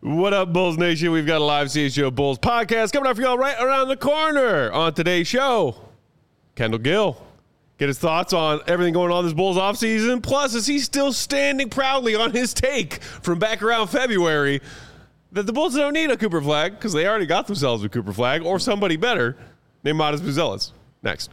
What up, Bulls Nation? We've got a live CHGO Bulls podcast coming up for y'all right around the corner. On today's show, Kendall Gill. Get his thoughts on everything going on this Bulls offseason. Plus, is he still standing proudly on his take from back around February that the Bulls don't need a Cooper Flag because they already got themselves a Cooper Flag or somebody better named Matas Buzelis. Next.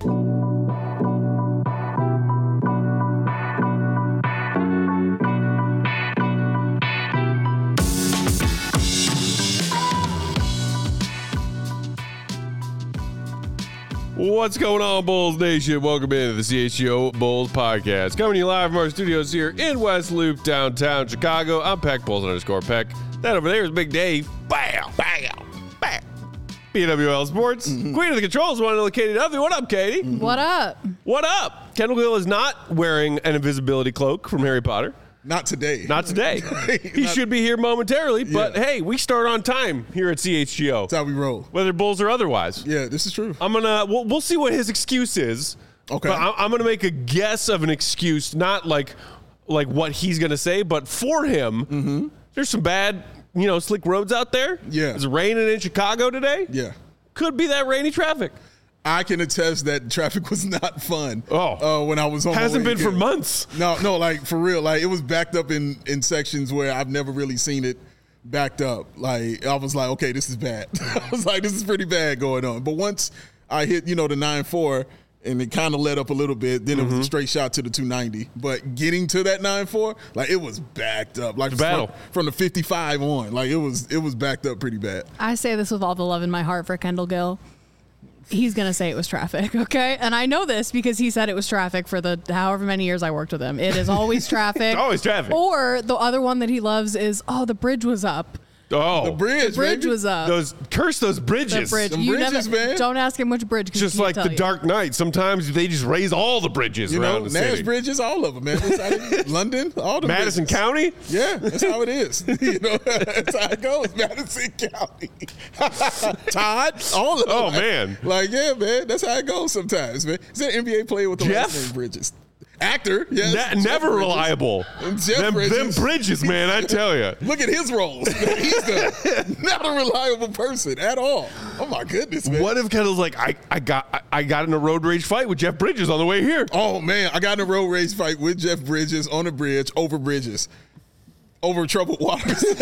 What's going on, Bulls Nation? Welcome into the CHGO Bulls podcast. Coming to you live from our studios here in West Loop, downtown Chicago. I'm Peck, Bulls_Peck. That over there is Big Dave. Bam, bam, bam. BWL Sports. Queen of the Controls, one little Katie W. What up, Katie? What up? What up? Kendall Gill is not wearing an invisibility cloak from Harry Potter. Not today. Not today. He should be here momentarily, but hey, we start on time here at CHGO. That's how we roll. Whether Bulls or otherwise. Yeah, this is true. We'll see what his excuse is. Okay. But I'm gonna make a guess of an excuse, not like what he's gonna say, but for him, there's some bad, slick roads out there. Yeah. It's raining in Chicago today. Yeah. Could be that rainy traffic. I can attest that traffic was not fun. When I was on hasn't my way been for months. No, like for real. Like it was backed up in sections where I've never really seen it backed up. Like I was like, okay, this is bad. I was like, this is pretty bad going on. But once I hit, the 9-4 and it kind of let up a little bit, then it was a straight shot to the 290. But getting to that 9-4, like it was backed up. Like from the 55 on. Like it was backed up pretty bad. I say this with all the love in my heart for Kendall Gill. He's going to say it was traffic, okay? And I know this because he said it was traffic for the however many years I worked with him. It is always traffic. It's always traffic. Or the other one that he loves is, the bridge was up. Oh, the bridge was up. Curse those bridges. The bridge. Them bridges, man. Don't ask him which bridge. Just like the Dark Knight. Sometimes they just raise all the bridges around the Nash city. bridges, all of them, man. London, all the Madison bridges. County? Yeah, that's how it is. That's how it goes. Madison County. Todd, all of them. Oh, man. Like, yeah, man, that's how it goes sometimes, man. Is there an NBA player with the Jeff? last name Bridges? Actor, yes. Never Bridges. reliable. Jeff Them bridges, man, I tell you. Look at his roles. He's not a reliable person at all. Oh, my goodness, man. What if Kendall's like, I got in a road rage fight with Jeff Bridges on the way here? Oh, man, I got in a road rage fight with Jeff Bridges on a bridge, over bridges. Over troubled waters. Oh,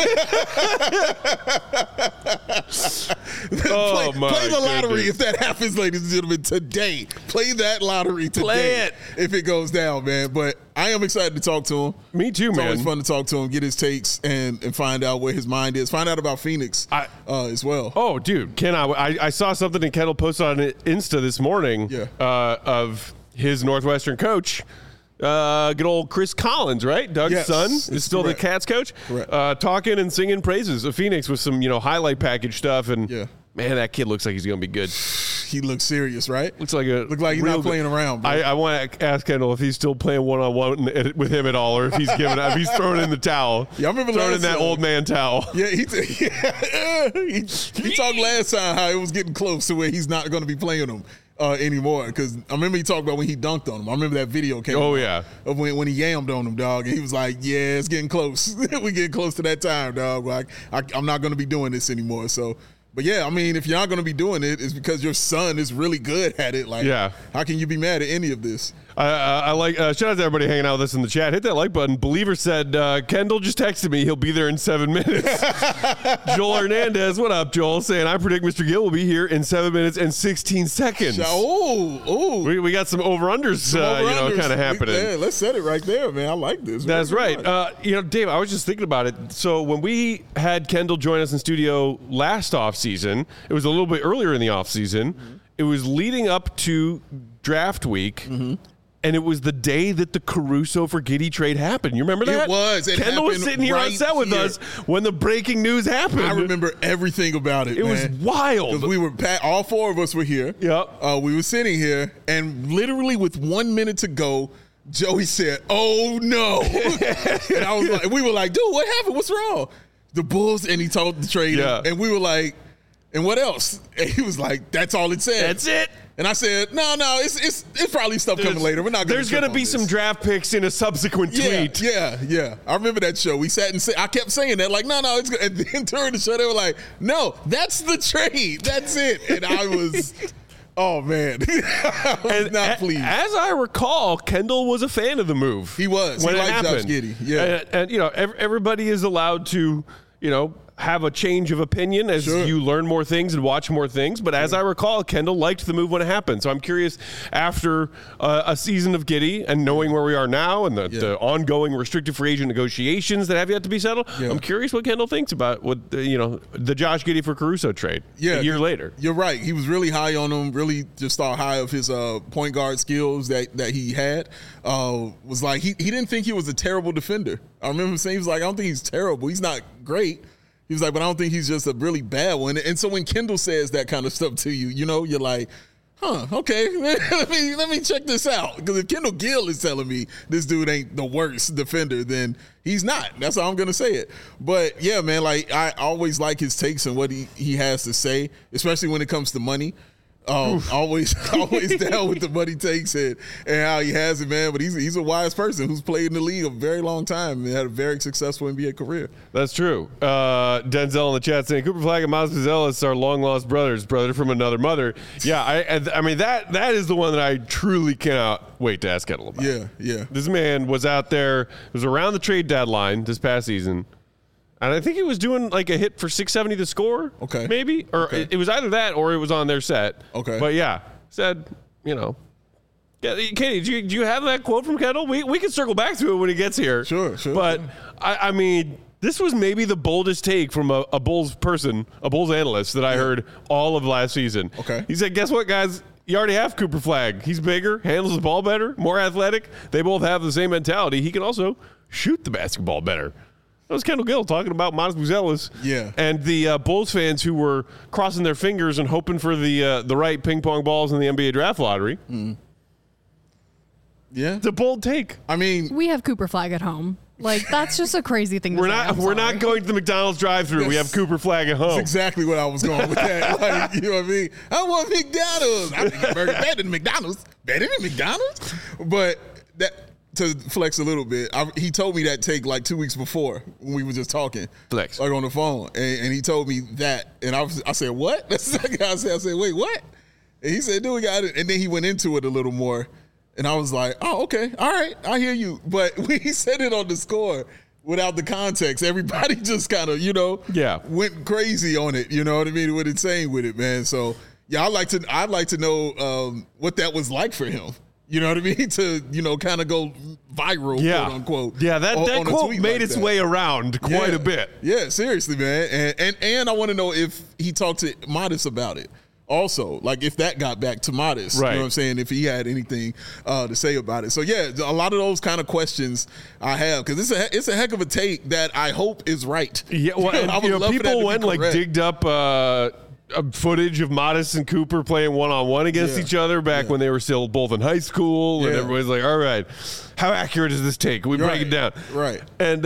play the lottery goodness. if that happens, ladies and gentlemen, today. Play that lottery today. Play it. If it goes down, man. But I am excited to talk to him. Me too, It's man. always fun to talk to him, get his takes, and find out where his mind is. Find out about Phoenix as well. Oh, dude, I saw something that Kendall posted on Insta this morning of his Northwestern coach. Good old Chris Collins, right? Doug's son is still correct. the Cats coach. Correct. Talking and singing praises of Phoenix with some, highlight package stuff. And man, that kid looks like he's going to be good. He looks serious, right? Look like he's not playing around, bro. I want to ask Kendall if he's still playing one-on-one with him at all, or if he's giving up. He's throwing in the towel. Yeah, I remember throwing in that old man towel. Yeah, he talked last time how it was getting close to where he's not going to be playing him anymore. Because I remember he talked about when he dunked on him. I remember that video came out of when he yammed on him, dog. And he was like, yeah, it's getting close. We getting close to that time, dog. Like, I'm not going to be doing this anymore. So, but yeah, I mean, if you're not going to be doing it, it's because your son is really good at it. Like, how can you be mad at any of this? I like shout out to everybody hanging out with us in the chat. Hit that like button. Believer said Kendall just texted me. He'll be there in 7 minutes. Joel Hernandez, what up, Joel? Saying I predict Mr. Gill will be here in 7 minutes and 16 seconds. We got some over-unders, kind of happening. Yeah, let's set it right there, man. I like this. That's right. Dave, I was just thinking about it. So when we had Kendall join us in studio last offseason, it was a little bit earlier in the offseason. It was leading up to draft week. And it was the day that the Caruso for Giddey trade happened. You remember that? It was. Kendall was sitting here on set with us when the breaking news happened. I remember everything about it, It was wild. Because we were, all four of us were here. Yep. We were sitting here, and literally with 1 minute to go, Joey said, "Oh, no." And I was like, we were like, dude, what happened? What's wrong? The Bulls, and he told the trade. And we were like, And what else? And he was like, that's all it said. That's it. And I said, no, it's probably stuff coming later. We're not. There's gonna be some draft picks in a subsequent tweet. Yeah. I remember that show. We sat and I kept saying that, like, no, it's good. And then during the show, they were like, no, that's the trade. That's it. And I was, oh man, I was not pleased. As I recall, Kendall was a fan of the move. He was. When he it liked happened. Josh Giddey. Yeah. And everybody is allowed to, have a change of opinion as you learn more things and watch more things. But as I recall, Kendall liked the move when it happened. So I'm curious, after a season of Giddey and knowing where we are now and the ongoing restricted free agent negotiations that have yet to be settled, I'm curious what Kendall thinks about the Josh Giddey for Caruso trade a year later. You're right. He was really high on him, really just thought high of his point guard skills that he had. Was like, he didn't think he was a terrible defender. I remember him saying, he was like, I don't think he's terrible. He's not great. He was like, but I don't think he's just a really bad one. And so when Kendall says that kind of stuff to you, you're like, okay, let me check this out. Because if Kendall Gill is telling me this dude ain't the worst defender, then he's not. That's how I'm going to say it. But, yeah, man, like I always like his takes and what he has to say, especially when it comes to money. Always down with the money takes and how he has it, man. But he's a wise person who's played in the league a very long time and had a very successful NBA career. That's true. Denzel in the chat saying Cooper Flagg and Miles Buzelis are long lost brothers, brother from another mother. Yeah, I mean that is the one that I truly cannot wait to ask Kendall about. Yeah. This man was out there. It was around the trade deadline this past season. And I think he was doing like a hit for 670 to score. Okay. Maybe. Or it was either that or it was on their set. Okay. But yeah, said, Katie, do you have that quote from Kendall? We can circle back to it when he gets here. Sure. But I mean, this was maybe the boldest take from a Bulls person, a Bulls analyst that I heard all of last season. Okay. He said, guess what, guys? You already have Cooper Flagg. He's bigger, handles the ball better, more athletic. They both have the same mentality. He can also shoot the basketball better. That was Kendall Gill talking about Miles Buzelis. Yeah. And the Bulls fans who were crossing their fingers and hoping for the right ping pong balls in the NBA draft lottery. Mm. Yeah. It's a bold take. I mean, We have Cooper Flagg at home. Like, that's just a crazy thing to say. We're not going to the McDonald's drive-thru. We have Cooper Flagg at home. That's exactly what I was going with that. Like, you know what I mean? I want McDonald's. I think burger better than McDonald's. Better than McDonald's? But that, to flex a little bit, he told me that take like 2 weeks before when we were just talking. Flex. Like on the phone. And he told me that. And I said, what? That's the second I said. I said, wait, what? And he said, dude, we got it. And then he went into it a little more. And I was like, oh, okay. All right. I hear you. But when he said it on the score without the context, everybody just kind of, went crazy on it. You know what I mean? What it's saying with it, man. So, yeah, I'd like to know what that was like for him. You know what I mean? To, kind of go viral, quote unquote. Yeah, that quote made its way around quite a bit. Yeah, seriously, man. And I want to know if he talked to Modest about it. Also, like if that got back to Modest, right. You know what I'm saying? If he had anything to say about it. So, yeah, a lot of those kind of questions I have because it's a heck of a take that I hope is right. Yeah, well, and, people went like digged up footage of Modest and Cooper playing one-on-one against each other back when they were still both in high school, and everybody's like, all right, how accurate is this take? Can we break it down? Right. And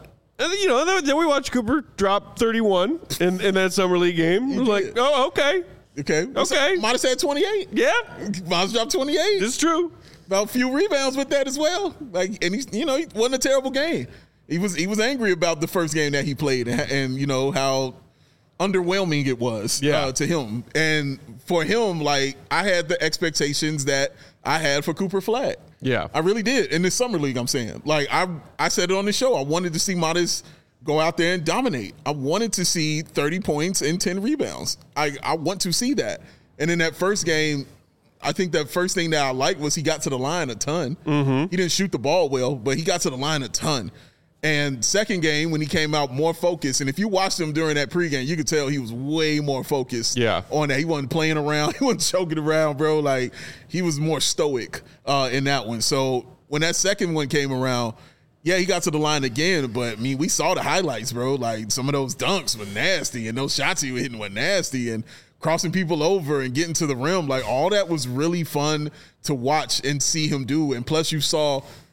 then we watched Cooper drop 31 in that summer league game. It was like, oh, okay. Okay. Modest had 28. Yeah. Modest dropped 28. It's true. About a few rebounds with that as well. Like, and he wasn't a terrible game. He was angry about the first game that he played and how underwhelming it was to him. And for him, like, I had the expectations that I had for Cooper Flagg. Yeah. I really did. In this summer league, I'm saying. Like, I said it on the show. I wanted to see Modest go out there and dominate. I wanted to see 30 points and 10 rebounds. I want to see that. And in that first game, I think that first thing that I liked was he got to the line a ton. Mm-hmm. He didn't shoot the ball well, but he got to the line a ton. And second game, when he came out more focused, and if you watched him during that pregame, you could tell he was way more focused on that. He wasn't playing around. He wasn't choking around, bro. Like, he was more stoic in that one. So when that second one came around, yeah, he got to the line again, but, I mean, we saw the highlights, bro. Like, some of those dunks were nasty, and those shots he was hitting were nasty, and crossing people over and getting to the rim. Like, all that was really fun to watch and see him do. And plus, you saw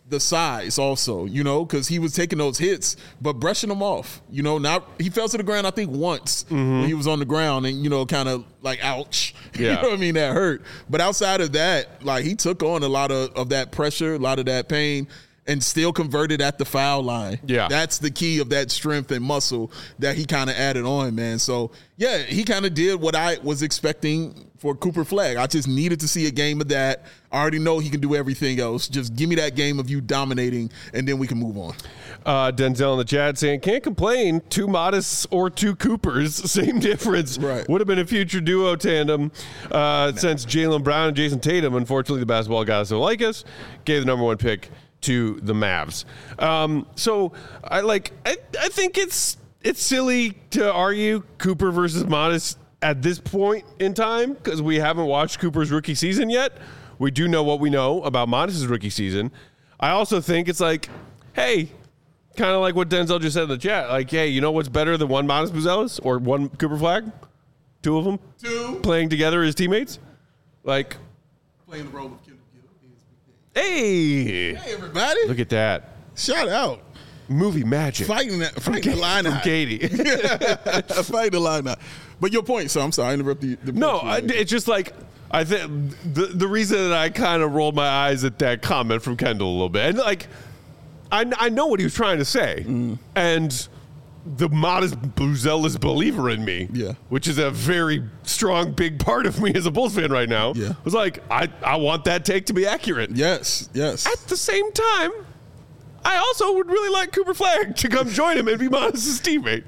the size also, because he was taking those hits, but brushing them off. He fell to the ground, I think, once when he was on the ground and, kind of like, ouch. Yeah. You know what I mean? That hurt. But outside of that, like, he took on a lot of that pressure, a lot of that pain, and still converted at the foul line. Yeah. That's the key of that strength and muscle that he kind of added on, man. So, yeah, he kind of did what I was expecting for Cooper Flagg. I just needed to see a game of that. I already know he can do everything else. Just give me that game of you dominating, and then we can move on. Denzel in the chat saying, can't complain. 2 Modest or 2 Coopers, same difference. Right. Would have been a future duo tandem since Jaylen Brown and Jason Tatum. Unfortunately, the basketball guys don't like us. Gave the number 1 pick to the Mavs. So I think it's silly to argue Cooper versus Modest at this point in time because we haven't watched Cooper's rookie season yet. We do know what we know about Modest's rookie season. I also think it's like, hey, kind of like what Denzel just said in the chat. Like, hey, you know what's better than 1 Modest Buzelis or 1 Cooper Flagg? 2 of them? 2. Playing together as teammates? Like, Playing the role of Kendall Gill. hey, everybody. Look at that. Shout out. Movie magic. Fighting the line from out. Katie. Fighting the line out. But your point, so I'm sorry, I interrupted the No, it's just like, I think the reason that I kind of rolled my eyes at that comment from Kendall a little bit, and like, I know what he was trying to say, and the Modest Buzelis believer in me, which is a very strong, big part of me as a Bulls fan right now, was like, I want that take to be accurate. Yes. At the same time, I also would really like Cooper Flagg to come join him and be Modest's teammate.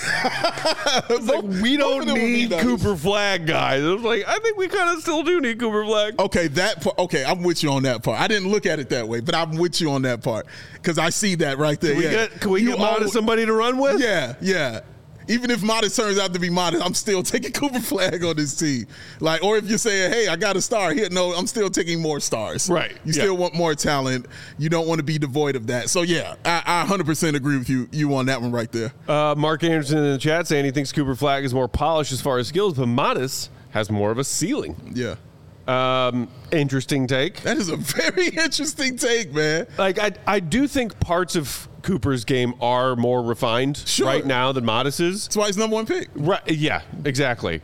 It's like, we don't need Cooper Flagg, guys. It was like, I think we kind of still do need Cooper Flagg. Okay, I'm with you on that part. I didn't look at it that way, but I'm with you on that part because I see that right there. Can we get Modest somebody to run with? Yeah. Even if Modest turns out to be Modest, I'm still taking Cooper Flagg on this team. Like, or if you're saying, hey, I got a star here, no, I'm still taking more stars. Right. You still want more talent. You don't want to be devoid of that. So, yeah, I 100% agree with you on that one right there. Mark Anderson in the chat saying he thinks Cooper Flagg is more polished as far as skills, but Modest has more of a ceiling. Yeah. Interesting take. That is a very interesting take, man. Like, I do think parts of Cooper's game are more refined right now than Modest's. That's why he's number 1 pick. Right? Yeah, exactly.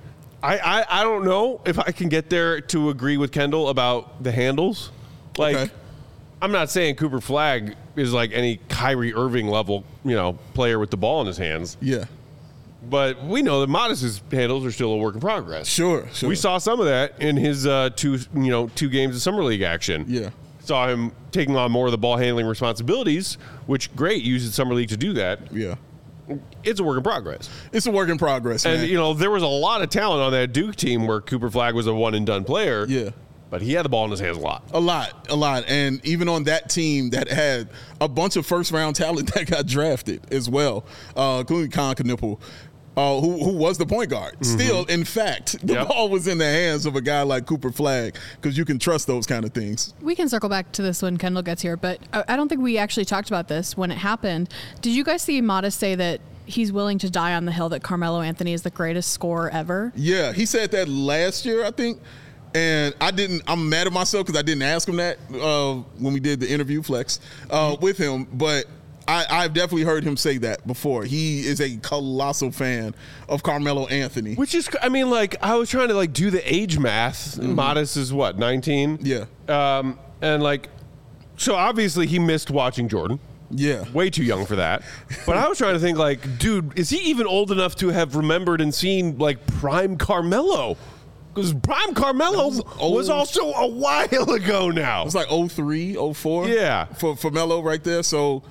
I don't know if I can get there to agree with Kendall about the handles. Like, I'm not saying Cooper Flagg is like any Kyrie Irving level, player with the ball in his hands. Yeah. But we know that Modest's handles are still a work in progress. Sure. We saw some of that in his 2 games of summer league action. Yeah. Saw him taking on more of the ball handling responsibilities, which great, used summer league to do that. Yeah. It's a work in progress. It's a work in progress, man. And, there was a lot of talent on that Duke team where Cooper Flagg was a one-and-done player. Yeah. But he had the ball in his hands a lot. A lot. And even on that team that had a bunch of first-round talent that got drafted as well, including Con Knipple, who was the point guard. Mm-hmm. Still, in fact, the ball was in the hands of a guy like Cooper Flagg because you can trust those kind of things. We can circle back to this when Kendall gets here, but I don't think we actually talked about this when it happened. Did you guys see Modest say that he's willing to die on the hill that Carmelo Anthony is the greatest scorer ever? Yeah, he said that last year, I think. And I'm mad at myself because I didn't ask him that when we did the interview Flex with him. But I've definitely heard him say that before. He is a colossal fan of Carmelo Anthony. Which is, I was trying to do the age math. Mm-hmm. Modest is what, 19? Yeah. And so obviously he missed watching Jordan. Yeah. Way too young for that. But I was trying to think dude, is he even old enough to have remembered and seen prime Carmelo? Because prime Carmelo was also a while ago now. It was 03, 04. Yeah. For Melo right there. So,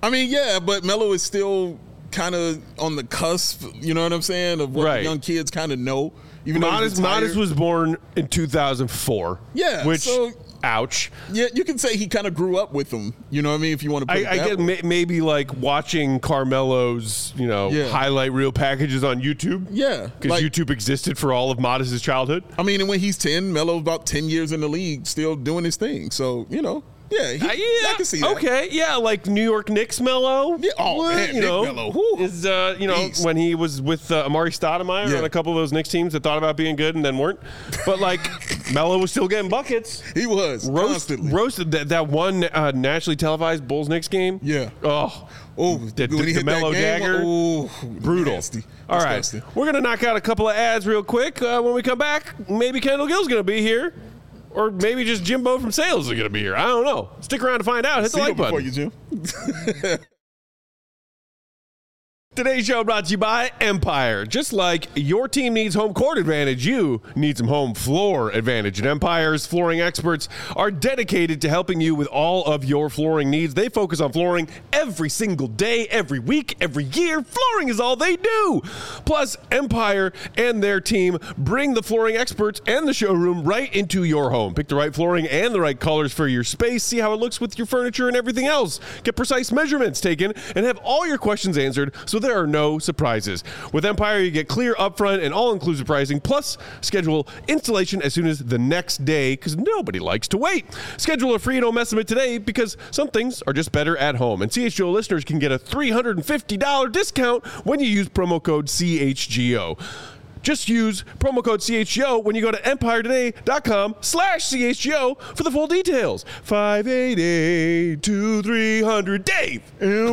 but Melo is still kind of on the cusp, you know what I'm saying, of what the young kids kind of know. Even Modest was born in 2004. Yeah. Which, ouch. Yeah, you can say he kind of grew up with them. You know what I mean? If you want to put it that I way. get maybe watching Carmelo's, highlight reel packages on YouTube. Yeah. Because YouTube existed for all of Modest's childhood. And when he's 10, Melo's about 10 years in the league, still doing his thing. So, Yeah, I can see that. Okay, yeah, like New York Knicks Melo. Yeah, man, you know, Nick Melo. is Beast. when he was with Amari Stoudemire on a couple of those Knicks teams that thought about being good and then weren't. But like Melo was still getting buckets. He was constantly roasted that one nationally televised Bulls Knicks game. Yeah. The Melo dagger. Brutal. Nasty. All right, we're gonna knock out a couple of ads real quick. When we come back, maybe Kendall Gill's gonna be here. Or maybe just Jimbo from Sales is going to be here. I don't know. Stick around to find out. Hit the like button. Before you, Jim. Today's show brought to you by Empire. Just like your team needs home court advantage, you need some home floor advantage. And Empire's flooring experts are dedicated to helping you with all of your flooring needs. They focus on flooring every single day, every week, every year. Flooring is all they do. Plus, Empire and their team bring the flooring experts and the showroom right into your home. Pick the right flooring and the right colors for your space. See how it looks with your furniture and everything else. Get precise measurements taken and have all your questions answered so there are no surprises. With Empire, you get clear, upfront, and all-inclusive pricing, plus schedule installation as soon as the next day, because nobody likes to wait. Schedule a free no estimate today, because some things are just better at home. And CHGO listeners can get a $350 discount when you use promo code CHGO. Just use promo code CHGO when you go to empiretoday.com/CHGO for the full details. 588-2300 Dave.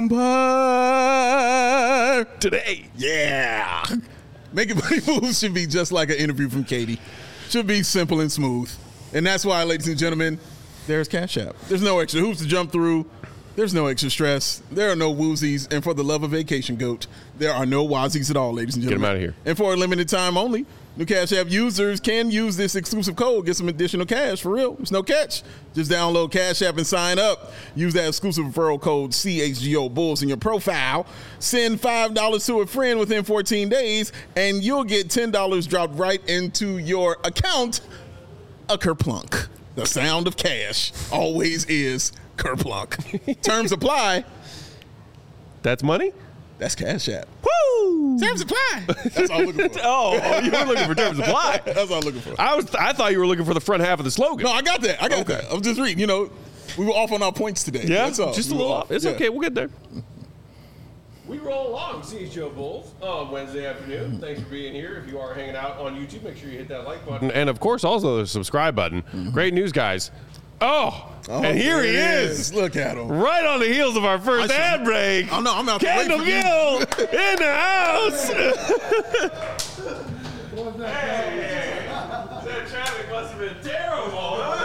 Empire Today. Yeah. Making Money Moves should be just like an interview from Katie. Should be simple and smooth. And that's why, ladies and gentlemen, there's Cash App. There's no extra hoops to jump through. There's no extra stress. There are no woozies. And for the love of Vacation Goat, there are no wazies at all, ladies and gentlemen. Get them out of here. And for a limited time only, new Cash App users can use this exclusive code, get some additional cash. For real, it's no catch. Just download Cash App and sign up. Use that exclusive referral code CHGO Bulls in your profile. Send $5 to a friend within 14 days, and you'll get $10 dropped right into your account. A kerplunk. The sound of cash always is kerplunk. Terms apply. That's money? That's Cash App. Woo! Terms apply. That's all I'm looking for. Oh, you were looking for terms apply. That's all I'm looking for. I thought you were looking for the front half of the slogan. No, I got that. I got that. I'm just reading. You know, we were off on our points today. Yeah, That's all. just a We were little off. It's Yeah. okay. We'll get there. We roll along, CHGO Bulls, on Wednesday afternoon. Thanks for being here. If you are hanging out on YouTube, make sure you hit that like button. And, of course, also the subscribe button. Great news, guys. And here he is. Look at him. Right on the heels of our first ad break. Oh, no, I'm out Kendall to wait for Gill you. in the house. Hey, That traffic must have been terrible, huh?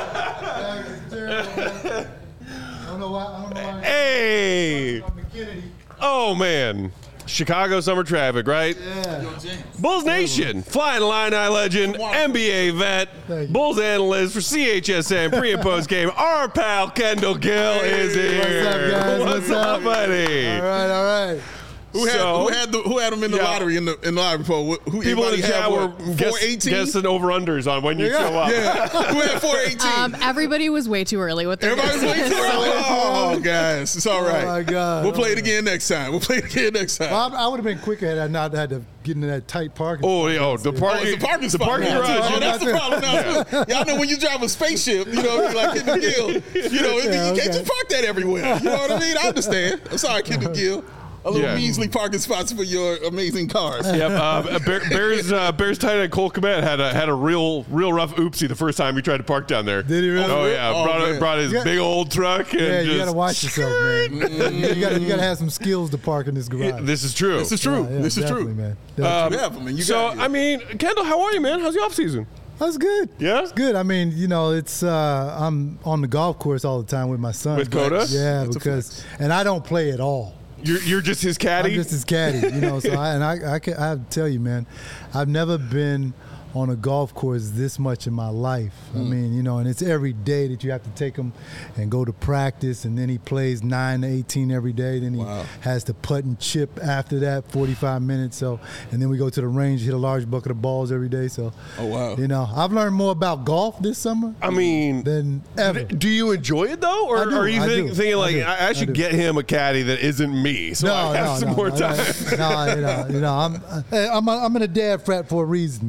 I don't know why. Hey. I'm McKinney. Oh, man. Chicago summer traffic, right? Yeah. Bulls Nation, Flying Illini legend, NBA vet, Thank you. Bulls analyst for CHSN pre and post game. Our pal Kendall Gill is here. What's up, guys? What's up, buddy? All right. Who had them in the lottery in the lottery poll? Who People in the chat were 418? guessing over-unders on when you show up. Yeah. Who had 418? Everybody was way too early with their Everybody's waiting for it. Oh, guys, it's all right. Oh, my God. We'll play it again next time. Well, I would have been quicker had I not had to get into that tight parking. The parking it's the parking garage. Oh, that's the problem now, too. Y'all know when you drive a spaceship, you know, like Kendall Gill, you know, you can't just park that everywhere. You know what I mean? I understand. I'm sorry, Kendall Gill. A little measly parking spots for your amazing cars. Yep. Bears tight end Cole Kmet had a real rough oopsie the first time he tried to park down there. Did he really? Oh yeah, Oh, brought his big old truck. And Yeah, just, you got to watch yourself, man. you got to have some skills to park in this garage. This is true. This is true. Yeah, This is definitely, true. man. I mean, Kendall, how are you, man? How's the off season? That's good. Yeah? It's good. I mean, you know, it's I'm on the golf course all the time with my son. With Coda? Yeah, That's and I don't play at all. You're just his caddy. I'm just his caddy, you know. So I have to tell you, man, I've never been on a golf course this much in my life. I mean, you know, and it's every day that you have to take him and go to practice, and then he plays 9 to 18 every day. Then he has to putt and chip after that, 45 minutes. So, and then we go to the range, hit a large bucket of balls every day. So, you know, I've learned more about golf this summer. I mean, than ever. Do you enjoy it though, or I do, are you I do. thinking like I I should do. get him a caddy that isn't me, so I have some more time? No, I'm in a dad frat for a reason, man. Yeah, there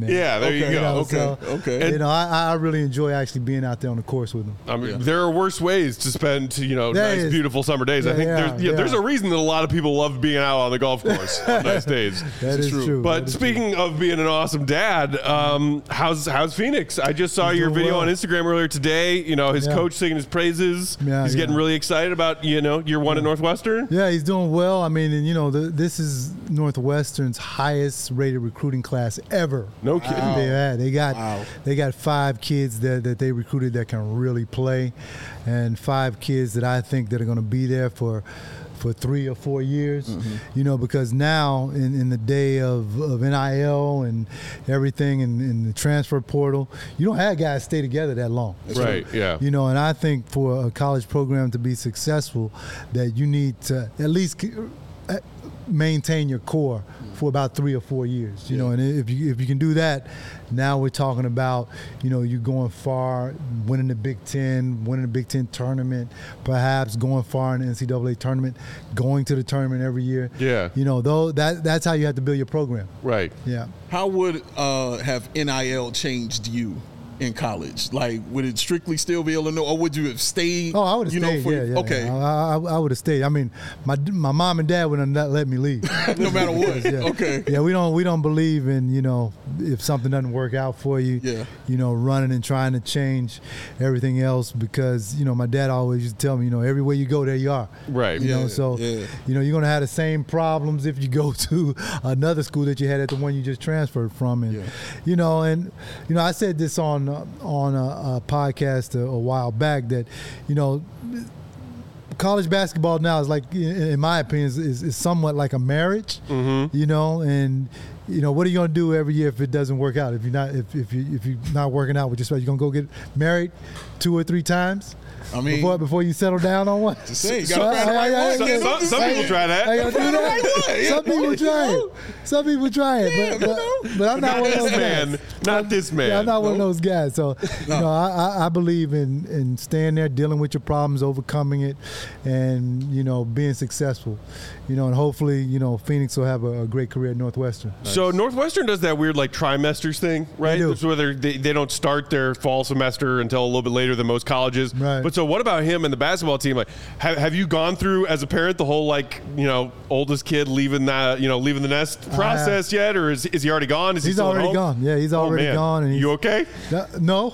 there you go. Okay. You know, I really enjoy actually being out there on the course with them. I mean, there are worse ways to spend, nice, beautiful summer days. I think there's a reason that a lot of people love being out on the golf course on nice days. That is true. But speaking of being an awesome dad, how's Phoenix? I just saw your video on Instagram earlier today. His coach singing his praises. He's getting really excited about, year one at Northwestern. Yeah, he's doing well. I mean, and this is Northwestern's highest rated recruiting class ever. No kidding. They got 5 kids that they recruited that can really play, and 5 kids that I think that are going to be there for 3 or 4 years, because now in the day of NIL and everything in the transfer portal, you don't have guys stay together that long. Right, yeah. And I think for a college program to be successful, that you need to at least maintain your core for about 3 or 4 years, and if you can do that, now we're talking about, you going far, winning the Big Ten, winning the Big Ten tournament, perhaps going far in the NCAA tournament, going to the tournament every year. Yeah. That's how you have to build your program. Right. Yeah. How would have NIL changed you in college? Like, would it strictly still be Illinois, or would you have stayed? Oh, I would have stayed. Okay. I would have stayed. I mean, my mom and dad would have not let me leave. No matter what. Yeah. Okay. Yeah, we don't believe in, if something doesn't work out for you, running and trying to change everything else, because, my dad always used to tell me, everywhere you go, there you are. Right. You're going to have the same problems if you go to another school that you had at the one you just transferred from. And, I said this on a podcast a while back that, college basketball now is like, in my opinion, is somewhat like a marriage, and what are you going to do every year if it doesn't work out? If you're not working out with your spouse, you're going to go get married 2 or 3 times? I mean, before you settle down on one. Just say, you gotta some people try that. I gotta do that. Some people try it. Some people try it, but I'm not one of those guys. Not this man. Yeah, I'm not one of those guys. So, I believe in staying there, dealing with your problems, overcoming it, and being successful. And hopefully, Phoenix will have a great career at Northwestern. So Northwestern does that weird trimesters thing, right? They do. So whether they don't start their fall semester until a little bit later than most colleges. Right. But so what about him and the basketball team? Like, have you gone through as a parent the whole oldest kid leaving the nest process yet, or is he already gone? Is he's he still already gone? Yeah, he's already gone. And you okay? No.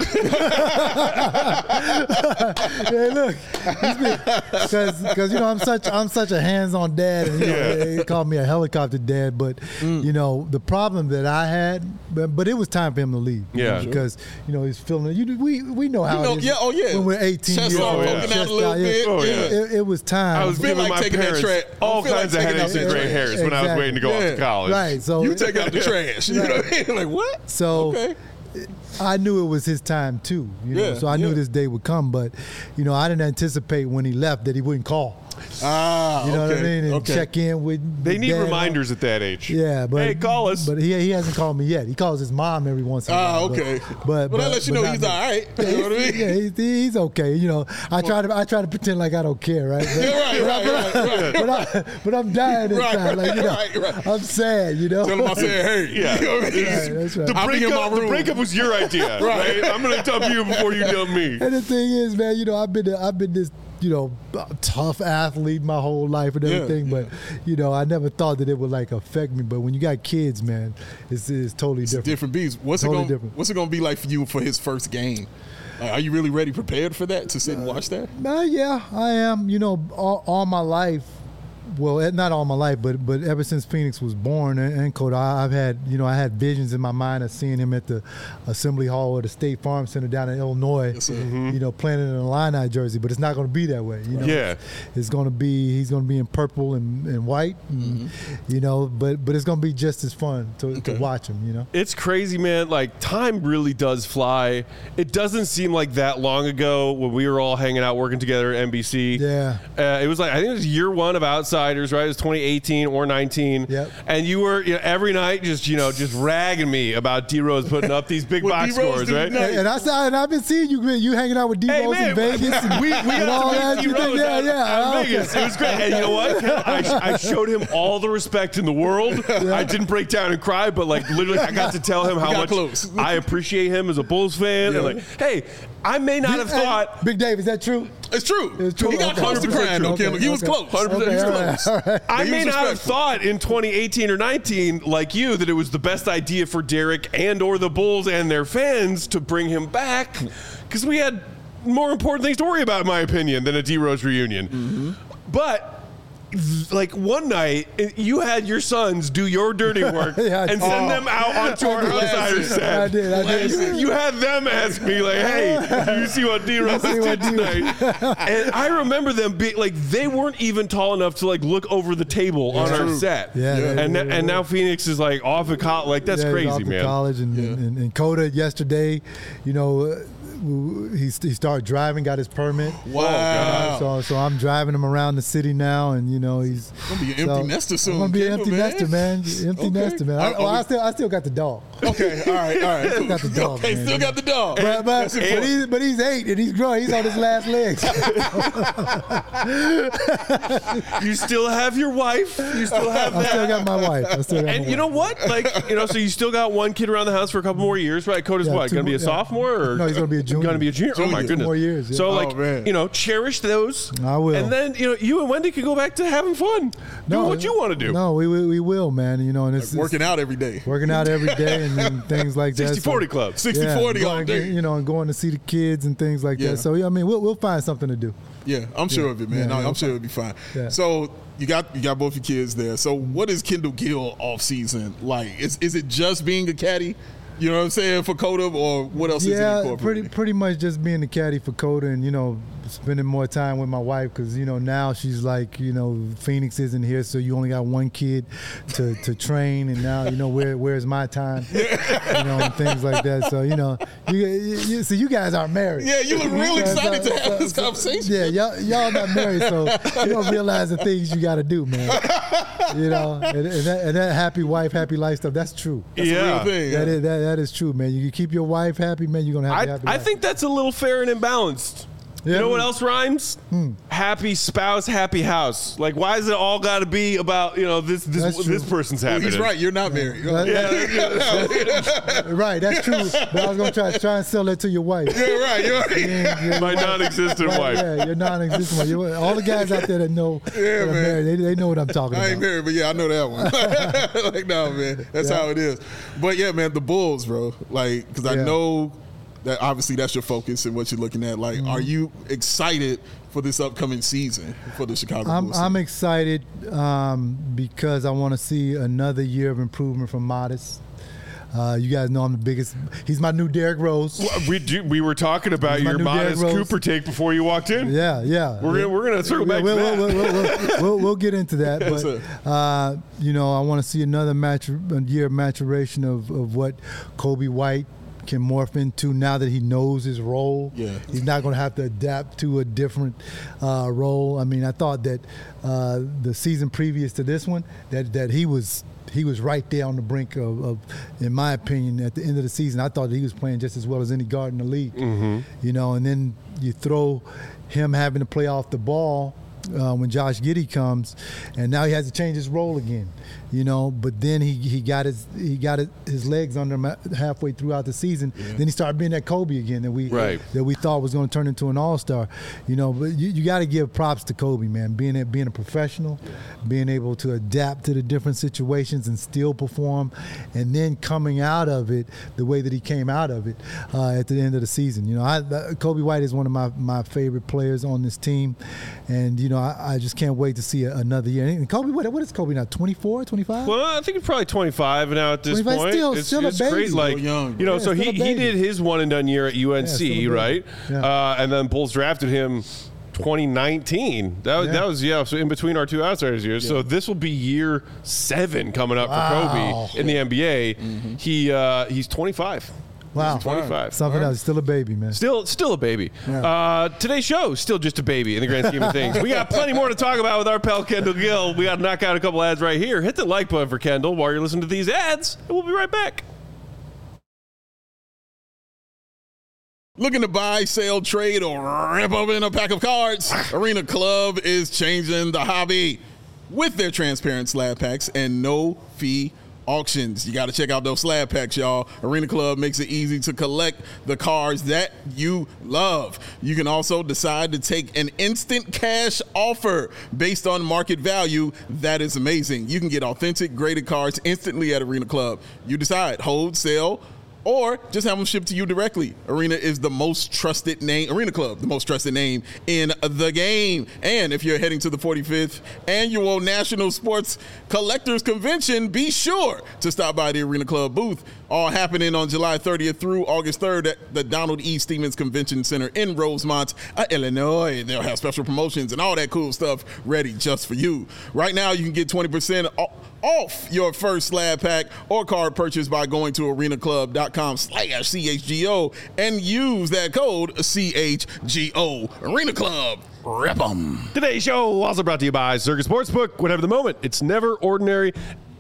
Hey, look, because I'm such a hands-on dad, and they call me a helicopter dad. But the problem that I had, but it was time for him to leave. Yeah, because he's feeling. We know how it is. Yeah, oh yeah. When we're 18 years old, it was time. I was giving my parents all kinds of headaches and gray hairs when I was waiting to go off to college. Right. So you take out the trash. You know what I mean? Like what? So. I knew it was his time too, so I knew this day would come, but I didn't anticipate when he left that he wouldn't call. What I mean? And check in with. They need reminders at that age. Yeah, but hey, call us. But he hasn't called me yet. He calls his mom every once in a while. Okay. But that lets you know he's all right. You know what I mean? Yeah, he's okay. I try to pretend like I don't care, right? Right. But I'm dying inside. Right. I'm sad. Tell him I said, hey. Yeah. That's right. The breakup was your idea, right? I'm going to dump you before you dump me. And the thing is, man, I've been this tough athlete my whole life and everything, but I never thought that it would affect me. But when you got kids, man, it's totally different. Different beast. What's it going to be like for you for his first game? Are you really ready, prepared for that, to sit and watch that? Yeah, I am. All my life. Well, not all my life, but ever since Phoenix was born and Coda, I've had, I had visions in my mind of seeing him at the Assembly Hall or the State Farm Center down in Illinois, playing in an Illini jersey. But it's not going to be that way. It's going to be, he's going to be in purple and white, and, but it's going to be just as fun to watch him. It's crazy, man. Time really does fly. It doesn't seem like that long ago when we were all hanging out working together at NBC. Yeah, it was I think it was year one of Outside. Outsiders, right? It was 2018 or 19. Yep. And you were every night just ragging me about D Rose putting up these big box scores, right? And I've been seeing you hanging out with D Rose in Vegas. And we all got that. to meet D Rose at Vegas. Okay. It was great. And you know what? I showed him all the respect in the world. I didn't break down and cry, but like literally, I got to tell him how much I appreciate him as a Bulls fan. Yeah. And like, hey, I may not have thought. Big Dave, is that true? It's true. It's true. He got close to crying, though, Kendall. He was close. 100%. He was close. All right. I He may was not have respectful. thought in 2018 or 19, like you, that it was the best idea for Derek and or the Bulls and their fans to bring him back, because we had more important things to worry about, in my opinion, than a D Rose reunion. But like one night, you had your sons do your dirty work Yeah, and send them out onto our outsider set. I did. You had them ask me, like, hey, you see what D Rose did tonight? And I remember them being like, they weren't even tall enough to like look over the table on our set. Yeah. And now Phoenix is like off at college. Like, that's Yeah, he's crazy, off to man. college and Coda yesterday, he started driving, got his permit. Wow. So I'm driving him around the city now, and he's Gonna be an empty nester soon. I'm gonna be an Kendall, empty nester, man. Empty nester, man. I still got the dog. Okay, all right. Cool. Got the dog, Okay, man. still got the dog. But he's 8 and he's growing. He's on his last legs. You still have your wife. You still have I that. still got my wife. And you know what? Like, so you still got one kid around the house for a couple more years, right? Coda's Yeah, what? 2 Going to be a more, yeah. sophomore? Or No, he's gonna be a junior. Going to be a junior? Oh, my Junior. goodness. 2 more years. Yeah. So, Oh, like, man. cherish those. I will. And then, you and Wendy can go back to having fun. Do what you want to do. No, we will, man. And it's Working out every day. working out every day and things like that. 60-40 club. 60-40 all day. And going to see the kids and things like Yeah. that. So we'll find something to do. Yeah, I'm sure of it, man. Yeah, I'm sure it'll be fine. Yeah. So you got both your kids there. So what is Kendall Gill off season like? Is it just being a caddy? You know what I'm saying, for Coda, or what else is it Yeah, incorporated? pretty much just being the caddy for Coda and, spending more time with my wife because, now she's like, Phoenix isn't here, so you only got one kid to train, and now, where's my time? And things like that. So, you guys aren't married. Yeah, you look real excited to have this conversation. Yeah, y'all not married, so you don't realize the things you got to do, man. And that happy wife, happy life stuff, that's true. That's a real thing. That is true, man. You keep your wife happy, man, you're going to have a happy I life. think that's a little fair and imbalanced. Yeah. You know what else rhymes? Happy spouse, happy house. Like, why is it all got to be about That's true. this person's happiness? He's right. You're not married. Right, that's true. But I was going to try and sell that to your wife. You're right. You're right. Yeah, My non-existent right, wife. Yeah, your non-existent wife. All the guys out there that know that are man. married, they know what I'm talking I about. ain't married, but yeah, I know that one. Like, no, man, that's how it is. But yeah, man, the Bulls, bro. Like, because I Yeah. know that obviously that's your focus and what you're looking at. Like, are you excited for this upcoming season for the Chicago Bulls? I'm excited because I want to see another year of improvement from Modest. You guys know I'm the biggest. He's my new Derrick Rose. We were talking about He's my your new Modest Derrick Rose. Cooper take before you walked in. Yeah. We're gonna circle back to that. We'll get into that, Yes, but sir. I want to see another year of maturation of what Kobe White can morph into now that he knows his role. Yeah. He's not going to have to adapt to a different role. I mean, I thought that the season previous to this one that he was right there on the brink of, in my opinion, at the end of the season, I thought that he was playing just as well as any guard in the league. And then you throw him having to play off the ball when Josh Giddey comes, and now he has to change his role again. But then he got his legs under him halfway throughout the season. Then he started being that Kobe again that we thought was going to turn into an all-star. But you got to give props to Kobe, man. Being a professional, being able to adapt to the different situations and still perform, and then coming out of it the way that he came out of it at the end of the season. Kobe White is one of my favorite players on this team, and I just can't wait to see another year. And Kobe, what is Kobe now? 24, 25? Well, I think he's probably 25 now at this 25, point. still a baby. Great. Like, Still young. so still a he baby. did his one and done year at UNC, still a baby. right? Yeah. And then Bulls drafted him 2019. That was so in between our two outsiders years. So this will be year 7 coming up for Kobe in the NBA. He's 25. Wow. 25. Something else. Still a baby, man. Still a baby. Yeah. Today's show, still just a baby in the grand scheme of things. We got plenty more to talk about with our pal Kendall Gill. We got to knock out a couple ads right here. Hit the like button for Kendall while you're listening to these ads, and we'll be right back. Looking to buy, sell, trade, or rip open a pack of cards? Arena Club is changing the hobby with their transparent slab packs and no-fee auctions. You got to check out those slab packs, y'all. Arena Club makes it easy to collect the cards that you love. You can also decide to take an instant cash offer based on market value. That is amazing. You can get authentic graded cards instantly at Arena Club. You decide, hold, sell, or just have them shipped to you directly. Arena is the most trusted name, Arena Club, the most trusted name in the game. And if you're heading to the 45th Annual National Sports Collectors Convention, be sure to stop by the Arena Club booth. All happening on July 30th through August 3rd at the Donald E. Stevens Convention Center in Rosemont, Illinois. They'll have special promotions and all that cool stuff ready just for you. Right now, you can get 20% off your first slab pack or card purchase by going to arenaclub.com/CHGO and use that code CHGO. Arena Club, rip 'em. Today's show also brought to you by Circus Sportsbook. Whatever the moment, it's never ordinary.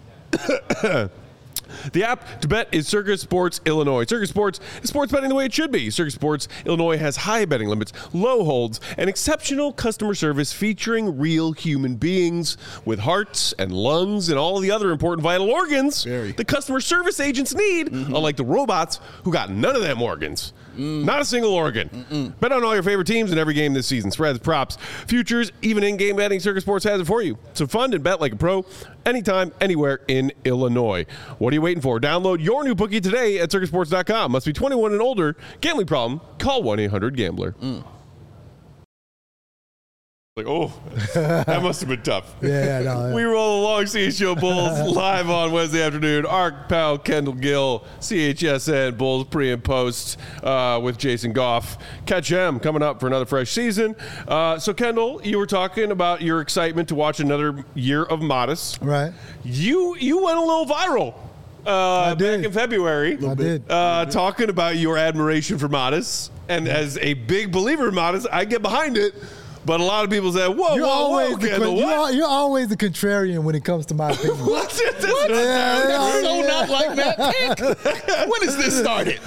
The app to bet is Circus Sports Illinois. Circus Sports is sports betting the way it should be. Circus Sports Illinois has high betting limits, low holds, and exceptional customer service featuring real human beings with hearts and lungs and all the other important vital organs the customer service agents need, unlike the robots who got none of them organs. Not a single organ. Bet on all your favorite teams in every game this season. Spreads, props, futures, even in-game betting. Circus Sports has it for you. So fund and bet like a pro anytime, anywhere in Illinois. What are you waiting for? Download your new bookie today at circusports.com. Must be 21 and older. Gambling problem? Call 1-800-GAMBLER. Like, oh, that must have been tough. Yeah. We roll along CHGO Bulls live on Wednesday afternoon. Our pal Kendall Gill, CHSN Bulls pre and post with Jason Goff. Catch him coming up for another fresh season. So, Kendall, you were talking about your excitement to watch another year of Modest. Right. You went a little viral back in February. I did. Talking about your admiration for Modest. And as a big believer in Modest, I get behind it. But a lot of people say, whoa, Kendall, what? You're always the contrarian when it comes to my opinion. What's it? Not like Matt Pick. When has this started?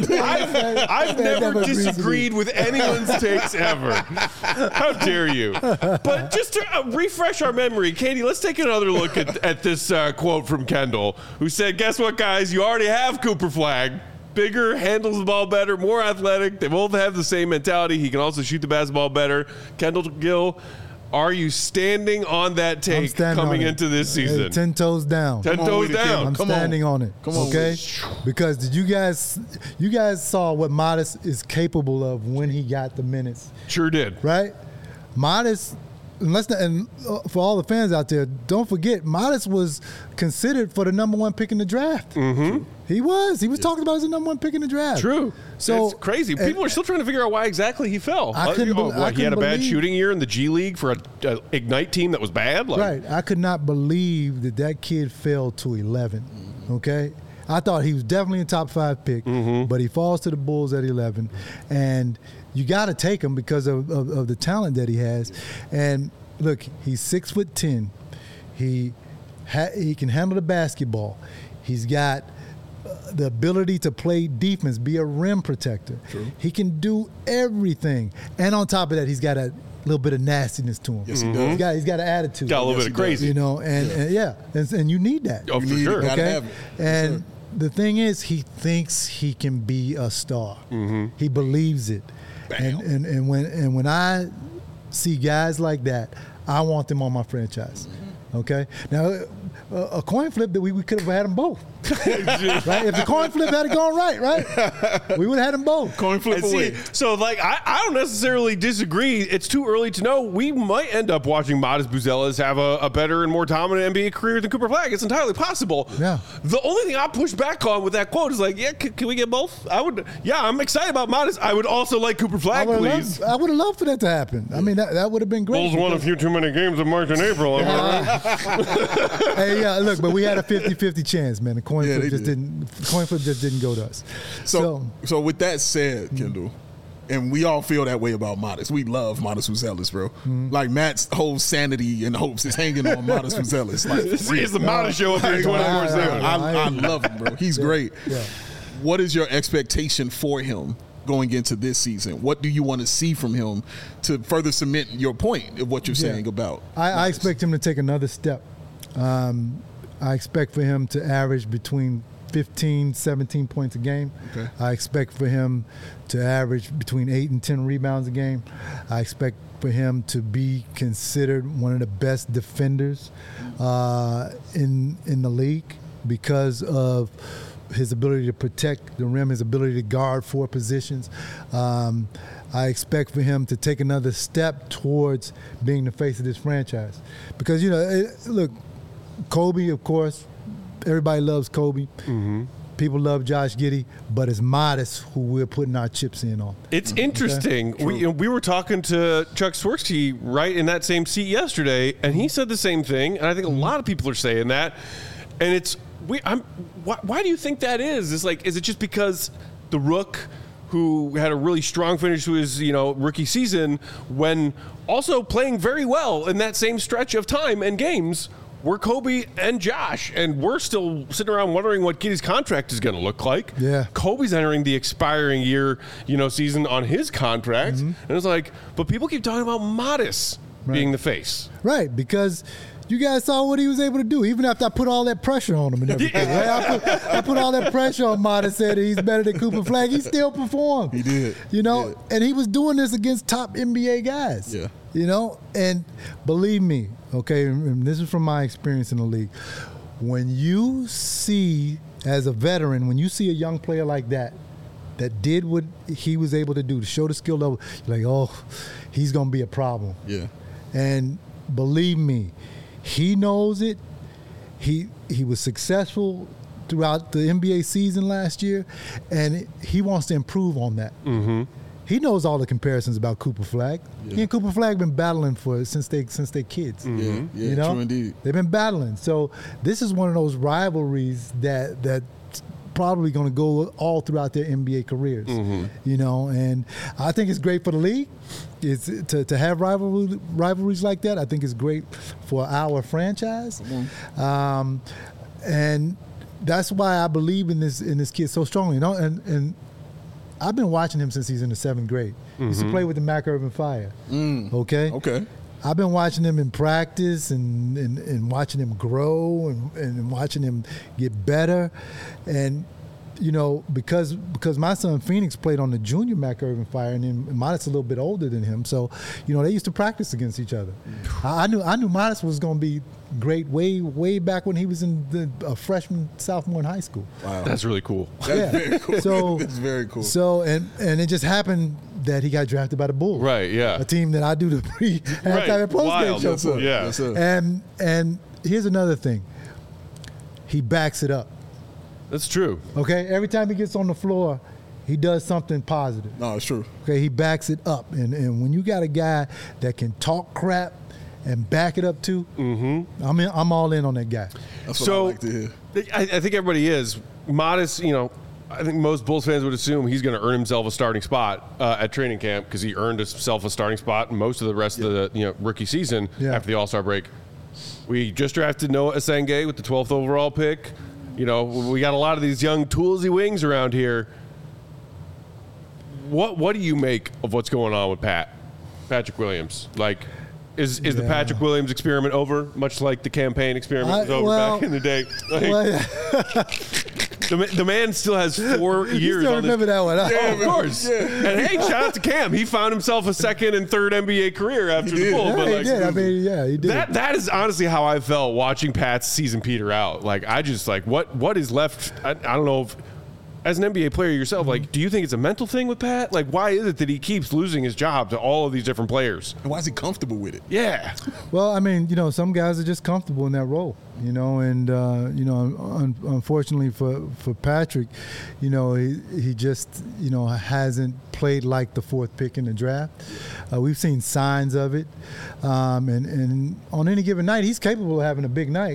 I've never disagreed with anyone's takes ever. How dare you? But just to refresh our memory, Katie, let's take another look at this quote from Kendall, who said, guess what, guys? You already have Cooper Flagg. Bigger, handles the ball better, more athletic. They both have the same mentality. He can also shoot the basketball better. Kendall Gill, are you standing on that take coming into this season? Hey, 10 toes down. 10 toes down. I'm standing on it. Okay? Because did you guys saw what Modest is capable of when he got the minutes. Sure did. Right? Modest, and for all the fans out there, don't forget, Modest was considered for the number one pick in the draft. Mm-hmm. He was talking about as the number one pick in the draft. True. So it's crazy. People are still trying to figure out why exactly he fell. I couldn't he had a bad shooting year in the G League for an Ignite team that was bad. Right. I could not believe that kid fell to 11. Okay. I thought he was definitely a top 5 pick, but he falls to the Bulls at 11, and you got to take him because of the talent that he has. And look, he's 6'10". He can handle the basketball. He's got the ability to play defense, be a rim protector. True. He can do everything. And on top of that, he's got a little bit of nastiness to him. Yes, he does. He's got an attitude. Got a little bit of crazy. You know, and you need that. Oh, for sure. Gotta have it. And the thing is, he thinks he can be a star. He believes it. And when I see guys like that, I want them on my franchise. Okay? Now, a coin flip that we could have had them both. Right? If the coin flip had gone right? We would have had them both. Coin flip away. So, I don't necessarily disagree. It's too early to know. We might end up watching Modest Buzelas have a better and more dominant NBA career than Cooper Flagg. It's entirely possible. Yeah. The only thing I push back on with that quote is can we get both? I'm excited about Modest. I would also like Cooper Flagg, please. I would have loved for that to happen. I mean, that would have been great. Bulls won a few too many games in March and April. Hey, yeah, look, but we had a 50-50 chance, man. The coin Yeah, flip they just did. didn't go to us. So with that said, Kendall, and we all feel that way about Modest. We love Modest Uzelis, bro. Like Matt's whole sanity and hopes is hanging on Modest Uzelis. Like, This is the Modest Show up here 24/7. I love him, bro. He's great. Yeah. What is your expectation for him going into this season? What do you want to see from him to further cement your point of what you're saying about? I expect him to take another step. I expect for him to average between 15, 17 points a game. Okay. I expect for him to average between 8 and 10 rebounds a game. I expect for him to be considered one of the best defenders in the league because of his ability to protect the rim, his ability to guard 4 positions. I expect for him to take another step towards being the face of this franchise. Because, look, Kobe, of course, everybody loves Kobe. People love Josh Giddey, but it's Modest who we're putting our chips in on. It's interesting. We were talking to Chuck Swirsky right in that same seat yesterday, and he said the same thing. And I think a lot of people are saying that. And it's why do you think that is? It's like, is it just because the Rook, who had a really strong finish to his rookie season, when also playing very well in that same stretch of time and games, were Kobe and Josh, and we're still sitting around wondering what Giddey's contract is going to look like. Yeah. Kobe's entering the expiring year, season on his contract, and it's like, but people keep talking about Modest being the face. Right, because you guys saw what he was able to do, even after I put all that pressure on him and everything. Right? I put all that pressure on Modest, said that he's better than Cooper Flag. He still performed. He did. And he was doing this against top NBA guys. Yeah. And believe me, okay, and this is from my experience in the league. When you see, as a veteran, when you see a young player like that did what he was able to do to show the skill level, you're like, oh, he's going to be a problem. Yeah. And believe me, he knows it. He was successful throughout the NBA season last year, and he wants to improve on that. He knows all the comparisons about Cooper Flag. Yeah. He and Cooper Flag been battling since they kids. Yeah, true indeed. They've been battling. So this is one of those rivalries that's probably going to go all throughout their NBA careers. And I think it's great for the league. It's to have rivalries like that. I think it's great for our franchise. And that's why I believe in this kid so strongly. And I've been watching him since he's in the 7th grade. He used to play with the Mac Urban Fire. Okay. I've been watching him in practice and watching him grow and watching him get better. And, because my son Phoenix played on the junior Mac Urban Fire, and then Modest a little bit older than him. So, they used to practice against each other. I knew Modest was going to be great way back when he was in a freshman, sophomore in high school. Wow. That's really cool. That's very cool. So, that's very cool. So, and it just happened that he got drafted by the Bulls. Right, yeah. A team that I do the halftime and post-game show for. Yeah. Yes, sir. And here's another thing. He backs it up. That's true. Okay? Every time he gets on the floor, he does something positive. No, it's true. Okay? He backs it up. And when you got a guy that can talk crap and back it up too, I'm all in on that guy. That's what I like to hear. I think everybody is. Modest, I think most Bulls fans would assume he's going to earn himself a starting spot at training camp because he earned himself a starting spot most of the rest of the rookie season after the All-Star break. We just drafted Noah Asenge with the 12th overall pick. We got a lot of these young toolsy wings around here. What do you make of what's going on with Patrick Williams? Like, is the Patrick Williams experiment over? Much like the campaign experiment was over back in the day. The man still has 4 years. You still on remember that one? Yeah, of course. Yeah. And hey, shout out to Cam. He found himself a 2nd and 3rd NBA career after the Bulls. Yeah, he did. I mean, he did. That is honestly how I felt watching Pat's season peter out. Like, I just what is left? I don't know if, as an NBA player yourself, like, do you think it's a mental thing with Pat? Like, why is it that he keeps losing his job to all of these different players? And why is he comfortable with it? Yeah. Well, I mean, some guys are just comfortable in that role, and unfortunately for Patrick, he just, hasn't played like the 4th pick in the draft. We've seen signs of it, and on any given night, he's capable of having a big night.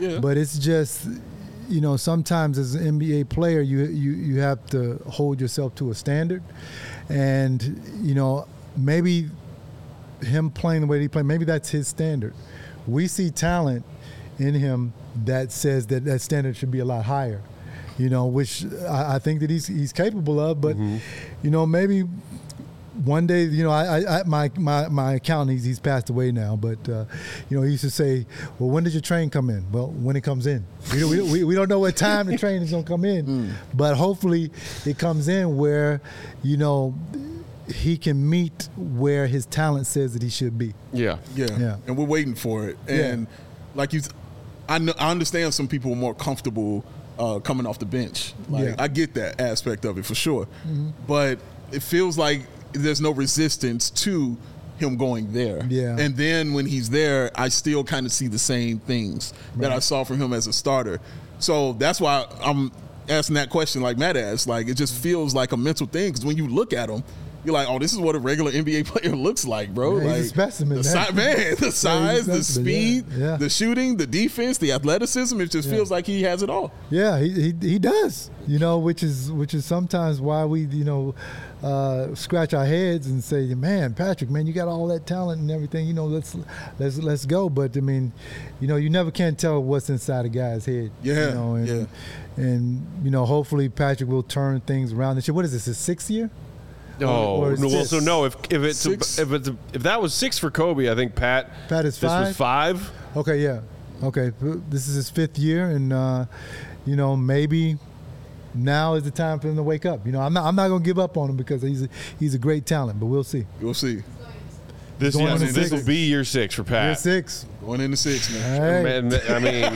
Yeah. But it's just, sometimes as an NBA player, you have to hold yourself to a standard. And, maybe him playing the way he played, maybe that's his standard. We see talent in him that says that standard should be a lot higher, which I think that he's capable of. But, maybe one day, my accountant, he's passed away now, but, he used to say, well, when does your train come in? Well, when it comes in. We don't know what time the train is going to come in, but hopefully it comes in where, he can meet where his talent says that he should be. Yeah. And we're waiting for it. And like I understand some people are more comfortable coming off the bench. I get that aspect of it for sure. But it feels like there's no resistance to him going there. Yeah. And then when he's there, I still kind of see the same things that I saw from him as a starter. So that's why I'm asking that question like Matt asked. Like, it just feels like a mental thing, because when you look at him, you're like, oh, this is what a regular NBA player looks like, bro. Yeah, like, he's a specimen, the size, the speed, yeah. the shooting, the defense, the athleticism. It just feels like he has it all. Yeah, he does. Which is sometimes why we scratch our heads and say, man, Patrick, man, you got all that talent and everything. Let's go. But I mean, you never can tell what's inside a guy's head. Yeah. And hopefully Patrick will turn things around this year. What is this? His 6th year? If that was 6 for Kobe, I think Pat is 5. This was 5. Okay, yeah. Okay, this is his 5th year, and maybe now is the time for him to wake up. I'm not going to give up on him because he's a great talent, but we'll see. We'll see. This will be year 6 for Pat. Year 6. Going into 6, man. Hey. I mean,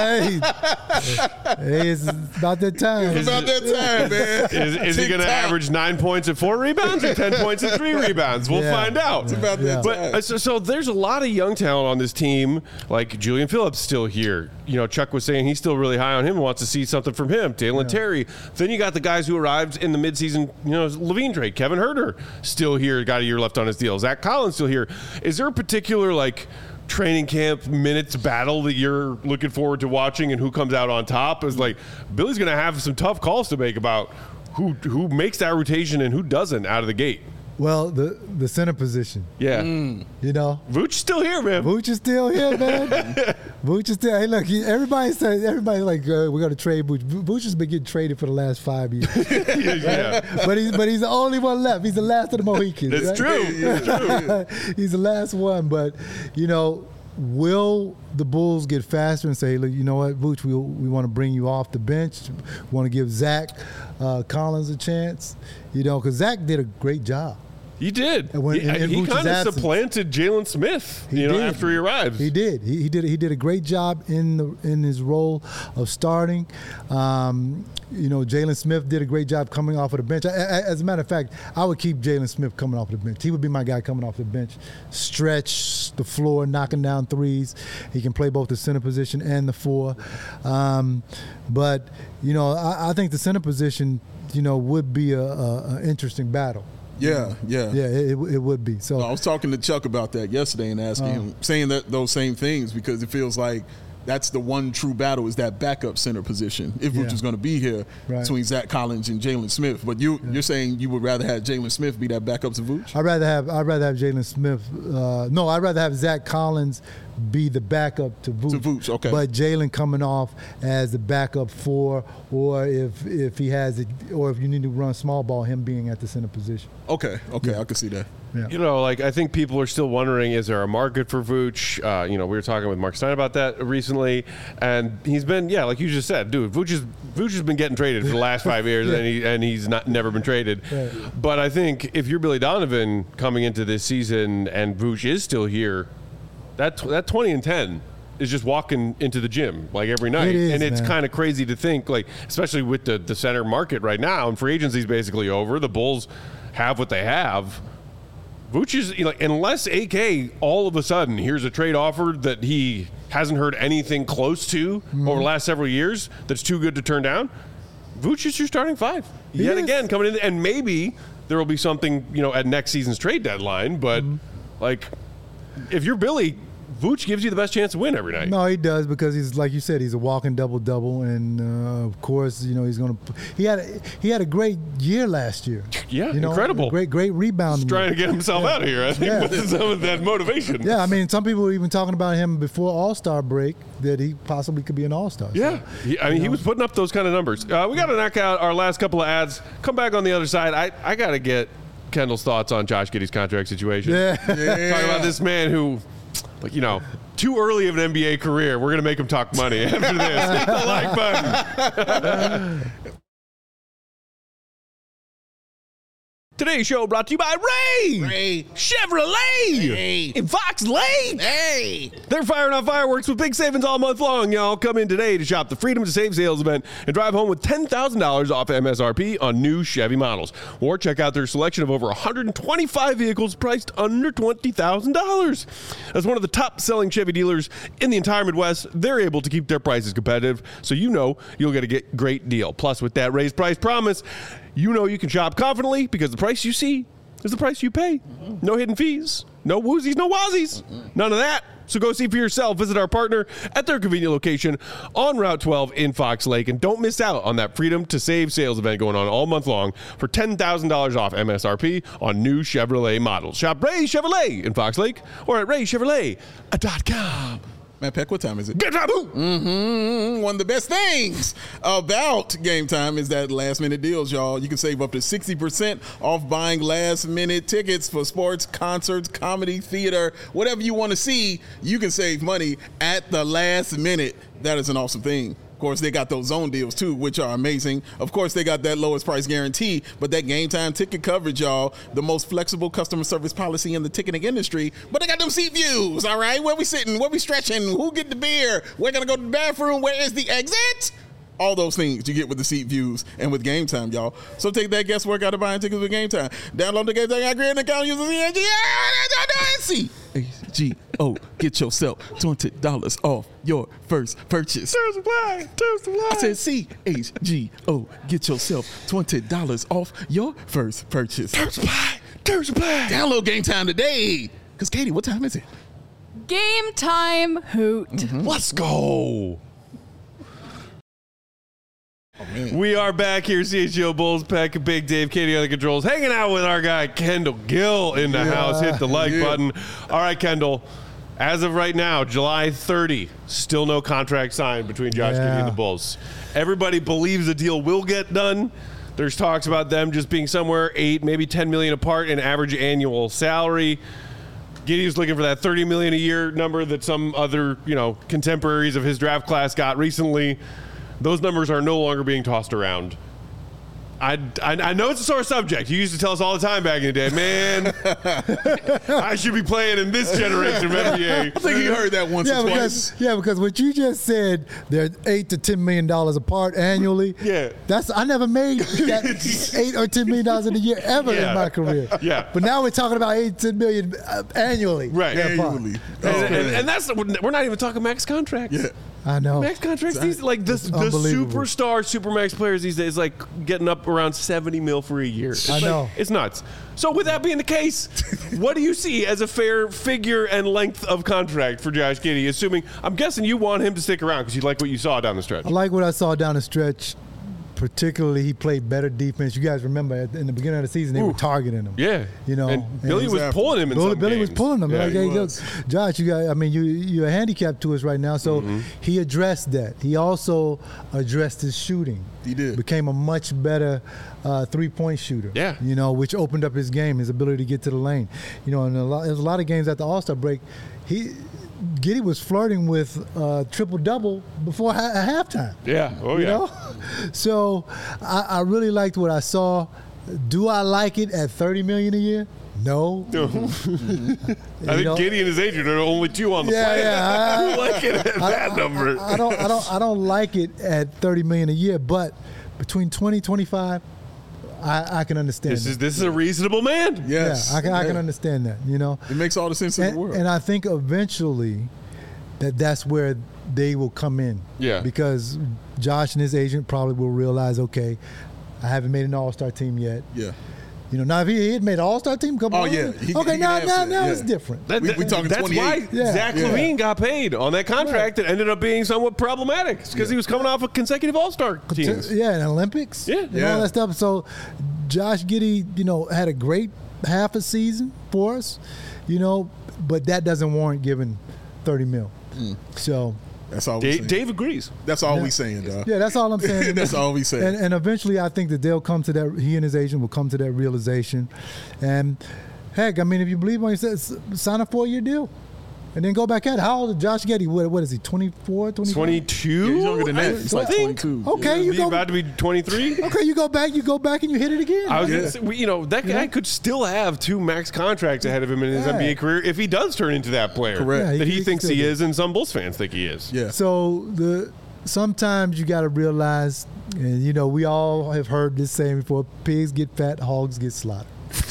hey, it's about that time. It's about that time, man. Is he going to average 9 points and 4 rebounds or 10 points and 3 rebounds? We'll find out. It's about that time. But so there's a lot of young talent on this team, like Julian Phillips still here. Chuck was saying he's still really high on him and wants to see something from him. Dalen Terry. Then you got the guys who arrived in the midseason, Levine trade. Kevin Huerter still here, got a year left on his deal. Zach Collins still here. Is there a particular, training camp minutes battle that you're looking forward to watching, and who comes out on top? Is Billy's going to have some tough calls to make about who makes that rotation and who doesn't out of the gate. Well, the center position. Yeah. Vooch still here, man. Vooch is still here, man. Vooch is still. Hey, look, everybody's we're going to trade Vooch. Vooch has been getting traded for the last 5 years. Yeah. But he's the only one left. He's the last of the Mohicans. That's true. He's the last one. But, will the Bulls get faster and say, look, you know what, Vooch, we want to bring you off the bench. We want to give Zach Collins a chance, because Zach did a great job. He did. He kind of supplanted Jalen Smith, after he arrived. He did. He did a great job in his role of starting. Jalen Smith did a great job coming off of the bench. As a matter of fact, I would keep Jalen Smith coming off the bench. He would be my guy coming off the bench. Stretch the floor, knocking down threes. He can play both the center position and the 4. But I think the center position, would be a interesting battle. Yeah. It would be. So I was talking to Chuck about that yesterday and asking him, saying those same things, because it feels like that's the one true battle, is that backup center position. If Vooch is going to be here between Zach Collins and Jalen Smith, but you're saying you would rather have Jalen Smith be that backup to Vooch? I'd rather have Jalen Smith. I'd rather have Zach Collins be the backup to Vooch. Okay. But Jalen coming off as the backup 4, or if he has it, or if you need to run small ball, him being at the center position. Okay, I can see that. Yeah. I think people are still wondering, is there a market for Vooch? We were talking with Mark Stein about that recently, and he's been, like you just said, dude, Vooch has been getting traded for the last 5 years, and he's never been traded. Right. But I think if you're Billy Donovan coming into this season and Vooch is still here, that 20 and 10 is just walking into the gym every night. And it's kind of crazy to think, especially with the center market right now, and free agency's basically over. The Bulls have what they have. Vooch is, unless AK all of a sudden here's a trade offer that he hasn't heard anything close to over the last several years that's too good to turn down, Vooch is your starting 5. Yet again, coming in, and maybe there will be something, at next season's trade deadline, but if you're Billy, Vooch gives you the best chance to win every night. No, he does, because he's, like you said, he's a walking double-double, and of course, he's going to. He had a great year last year. Yeah, incredible. Great rebound. He's trying to get himself out of here, I think, with some of that motivation. Yeah, I mean, some people were even talking about him before All-Star break that he possibly could be an All-Star. Yeah, so, he was putting up those kind of numbers. We got to knock out our last couple of ads. Come back on the other side. I got to get Kendall's thoughts on Josh Giddey's contract situation. Yeah. Talking about this man who, too early of an NBA career. We're going to make him talk money after this. Hit the like button. Today's show brought to you by Ray Chevrolet in Fox Lake. Hey! They're firing off fireworks with big savings all month long, y'all. Come in today to shop the Freedom to Save sales event and drive home with $10,000 off MSRP on new Chevy models. Or check out their selection of over 125 vehicles priced under $20,000. As one of the top-selling Chevy dealers in the entire Midwest, they're able to keep their prices competitive, so you'll get a great deal. Plus, with that raised price promise, you can shop confidently because the price you see is the price you pay. No hidden fees, no woozies, no wazies, none of that. So go see for yourself. Visit our partner at their convenient location on Route 12 in Fox Lake. And don't miss out on that Freedom to Save sales event going on all month long for $10,000 off MSRP on new Chevrolet models. Shop Ray Chevrolet in Fox Lake or at raychevrolet.com. Matt Peck, what time is it? Get up! One of the best things about Game Time is that last-minute deals, y'all. You can save up to 60% off buying last-minute tickets for sports, concerts, comedy, theater, whatever you want to see. You can save money at the last minute. That is an awesome thing. Of course, they got those zone deals, too, which are amazing. Of course, they got that lowest price guarantee, but that Game Time ticket coverage, y'all, the most flexible customer service policy in the ticketing industry. But they got them seat views, all right? Where we sitting? Where we stretching? Who get the beer? We're going to go to the bathroom. Where is the exit? All those things you get with the seat views and with Game Time, y'all. So take that guesswork out of buying tickets with Game Time. Download the Game Time app, create an account, use the CHGO. Get yourself $20 off your first purchase. Terms apply. I said CHGO. Get yourself $20 off your first purchase. Terms apply. Download Game Time today. Because, Katie, what time is it? Game time hoot. Let's go. Oh, man. We are back here, CHGO Bulls, Peck, Big Dave, Katie on the controls, hanging out with our guy Kendall Gill in the house. Hit the like button. All right, Kendall. As of right now, July 30, still no contract signed between Josh Giddey and the Bulls. Everybody believes the deal will get done. There's talks about them just being somewhere $8, maybe $10 million apart in average annual salary. Giddey's looking for that $30 million a year number that some other, contemporaries of his draft class got recently. Those numbers are no longer being tossed around. I know it's a sore subject. You used to tell us all the time back in the day, man, I should be playing in this generation of NBA. I think you heard that once or twice. Because what you just said, they're $8 to $10 million apart annually. Yeah. I never made that $8 or $10 million in a year ever in my career. Yeah. But now we're talking about $8 to $10 million annually. Right. Annually. And that's we're not even talking max contracts. Yeah. I know. Max contracts, the superstar supermax players these days, getting up around $70 million for a year. I know. It's nuts. So with that being the case, what do you see as a fair figure and length of contract for Josh Giddey? Assuming, I'm guessing you want him to stick around because you like what you saw down the stretch. I like what I saw down the stretch. Particularly, he played better defense. You guys remember in the beginning of the season, they were targeting him. Yeah. And Billy was pulling him in some Billy games. was pulling him. Yeah, Look, Josh, you're handicapped to us right now. So he addressed that. He also addressed his shooting. He did. Became a much better three-point shooter. Yeah. Which opened up his game, his ability to get to the lane. And there's a lot of games at the All-Star break. Giddey was flirting with triple-double before halftime. Yeah. Oh, yeah. So I really liked what I saw. Do I like it at $30 million a year? No. I think Giddey and his agent are the only two on the planet. Yeah. I like it at that number. I don't like it at $30 million a year, but between 20, 25, I can understand this is a reasonable man. Yes. Yeah, I can understand that, It makes all the sense in the world. And I think eventually that's where they will come in. Yeah. Because Josh and his agent probably will realize, okay, I haven't made an all-star team yet. Yeah. You know, now if he had made an All-Star team, come on. yeah. Now it's different. We talking that's 28. why Zach LaVine got paid on that contract that ended up being somewhat problematic because he was coming off of consecutive All-Star teams. Yeah, and Olympics. Yeah. And all that stuff. So Josh Giddey, you know, had a great half a season for us, you know, but that doesn't warrant giving $30 million. So that's all we saying. Dave agrees. That's all we saying, dog. yeah, that's all I'm saying. That's all we saying. And eventually, I think that they'll come to that. He and his agent will come to that realization. And heck, I mean, if you believe what he says, sign a 4-year deal, and then go back at it. How old is Josh Giddey? What is he? 24, 25? 22. Yeah, he's younger than that. He's like 22. Okay, He's about to be 23. Okay, you go back, and you hit it again. I was gonna say, you know, that guy could still have 2 max contracts ahead of him in his Yeah. NBA career if he does turn into that player Correct. Yeah, that he he thinks still he do. is, and some Bulls fans think he is. Yeah. So sometimes you got to realize, and you know, we all have heard this saying before: pigs get fat, hogs get slaughtered.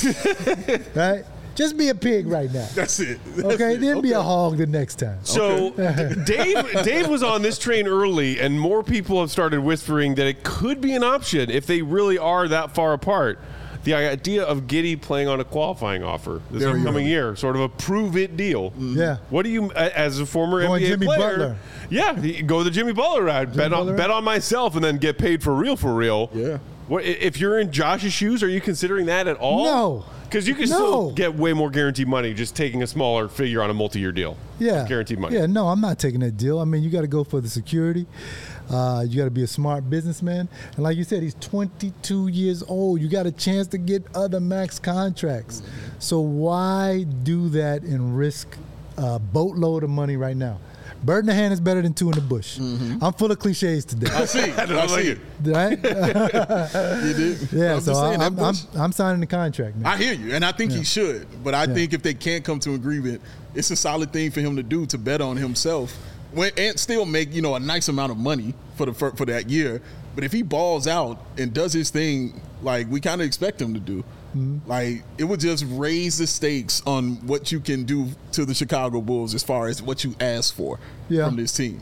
Right? Just be a pig right now. That's it. Okay, then be a hog the next time. So Dave was on this train early, and more people have started whispering that it could be an option if they really are that far apart. The idea of Giddey playing on a qualifying offer this There you upcoming go. year, sort of a prove-it deal. Yeah. What do you, as a former Going NBA Jimmy player? Butler. Yeah, go the Jimmy Butler route. Bet Butler. on myself, and then get paid for real. Yeah. What if you're in Josh's shoes? Are you considering that at all? No. Because you can still get way more guaranteed money just taking a smaller figure on a multi-year deal. Yeah. Guaranteed money. Yeah, no, I'm not taking that deal. I mean, you got to go for the security. You got to be a smart businessman. And like you said, he's 22 years old. You got a chance to get other max contracts. So why do that and risk a boatload of money right now? Bird in the hand is better than 2 in the bush. I'm full of cliches today. I see. I like see it. Right? You did. Yeah, I'm so just saying, that Bush- I'm signing the contract, man. I hear you, and I think he should. But I think if they can't come to an agreement, it's a solid thing for him to do to bet on himself and still make a nice amount of money for that year. But if he balls out and does his thing like we kind of expect him to do, like it would just raise the stakes on what you can do to the Chicago Bulls as far as what you ask for from this team.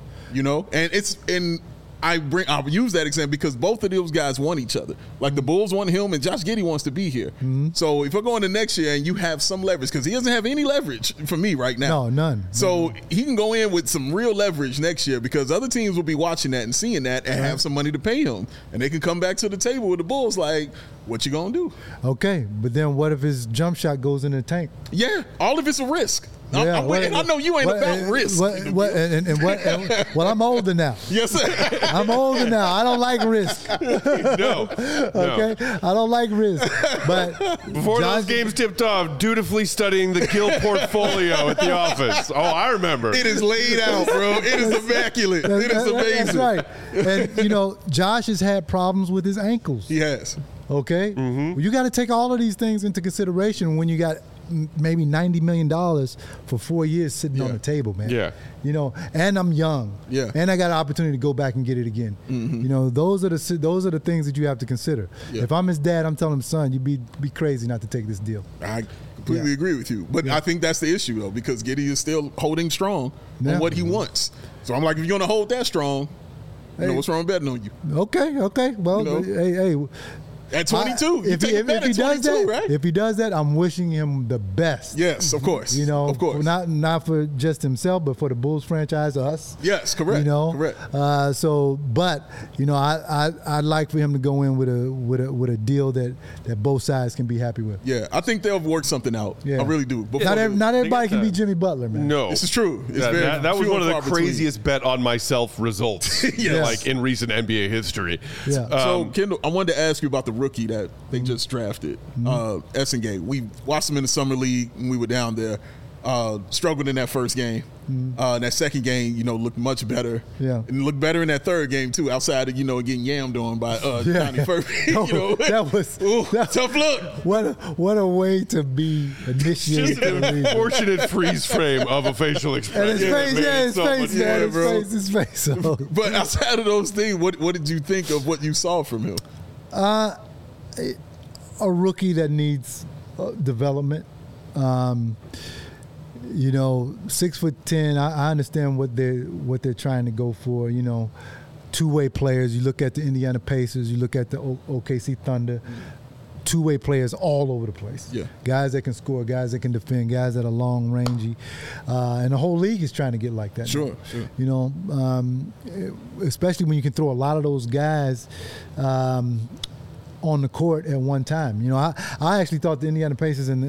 And I'll use that example because both of those guys want each other. Like the Bulls want him, and Josh Giddey wants to be here. So if we're going to next year and you have some leverage, because he doesn't have any leverage for me right now. No, none. So he can go in with some real leverage next year because other teams will be watching that and seeing that and have some money to pay him, and they can come back to the table with the Bulls like, what you gonna do? Okay, but then what if his jump shot goes in the tank? Yeah, all of it's a risk. Yeah, I know you ain't about risk. Well, I'm older now. Yes, sir. I'm older now. I don't like risk. No. Okay, I don't like risk. But Before those games tipped off, dutifully studying the Gill portfolio at the office. Oh, I remember. It is laid out, bro. It is immaculate. It is amazing. That's right. And Josh has had problems with his ankles. He has. Okay, well, you got to take all of these things into consideration when you got maybe $90 million for 4 years sitting on the table, man. Yeah. And I'm young. Yeah. And I got an opportunity to go back and get it again. Those are the things that you have to consider. Yeah. If I'm his dad, I'm telling him, son, you'd be crazy not to take this deal. I completely agree with you. But I think that's the issue, though, because Giddey is still holding strong on what he wants. So I'm like, if you're going to hold that strong, what's wrong with betting on you? Okay. Well, hey. At 22, if he does that, right? If he does that, I'm wishing him the best. Yes, of course. Of course. Not for just himself, but for the Bulls franchise, us. Yes, correct. Correct. I'd like for him to go in with a deal that both sides can be happy with. Yeah, I think they'll work something out. Yeah. I really do. Not everybody can be Jimmy Butler, man. No. This is true. That was one of the craziest bet on myself results Yes. in recent NBA history. Yeah. So, Kendall, I wanted to ask you about the rookie that they just drafted, Essengate. We watched him in the summer league when we were down there. Struggled in that first game. That second game, looked much better. Yeah. And looked better in that third game, too, outside of, getting yammed on by Johnny Furby. That was tough look. What a way to be initiated. Just an unfortunate freeze frame of a facial And expression. his face, man. bro. His face. But outside of those things, what did you think of what you saw from him? A rookie that needs development. 6'10". I understand what they're trying to go for. Two-way players. You look at the Indiana Pacers. You look at the OKC Thunder. two-way players all over the place. Yeah. Guys that can score, guys that can defend, guys that are long rangey, and the whole league is trying to get like that. Sure, now. sure. You know, especially when you can throw a lot of those guys on the court at one time. You know, I actually thought the Indiana Pacers and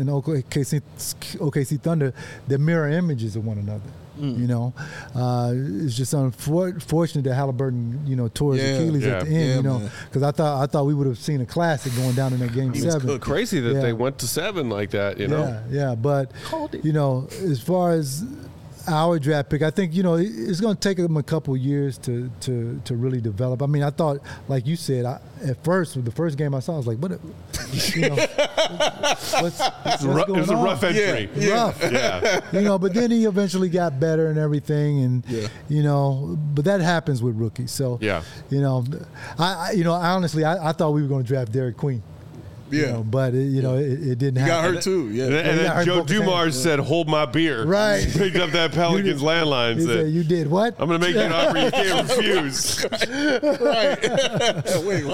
OKC Thunder, they're mirror images of one another. You know, it's just unfortunate that Halliburton, you know, tore his Achilles at the end. You know, because I thought we would have seen a classic going down in that game 7. It's crazy that they went to 7 like that. You know. Yeah. But you know, as far as our draft pick, I think, you know, it's going to take them a couple years to really develop. I mean, I thought, like you said, at first, with the first game I saw, I was like, what? You know, what's going on? It was a rough entry. Rough. Yeah. You know, but then he eventually got better and everything, and you know, but that happens with rookies. So you know, I honestly, I thought we were going to draft Derek Queen. You know, but it didn't happen. He got hurt too. Yeah. And then Joe Dumars said, "Hold my beer." Right. He picked up that Pelicans landline. He said, "You did what? I'm going to make you an offer you can't refuse." Right. Wait,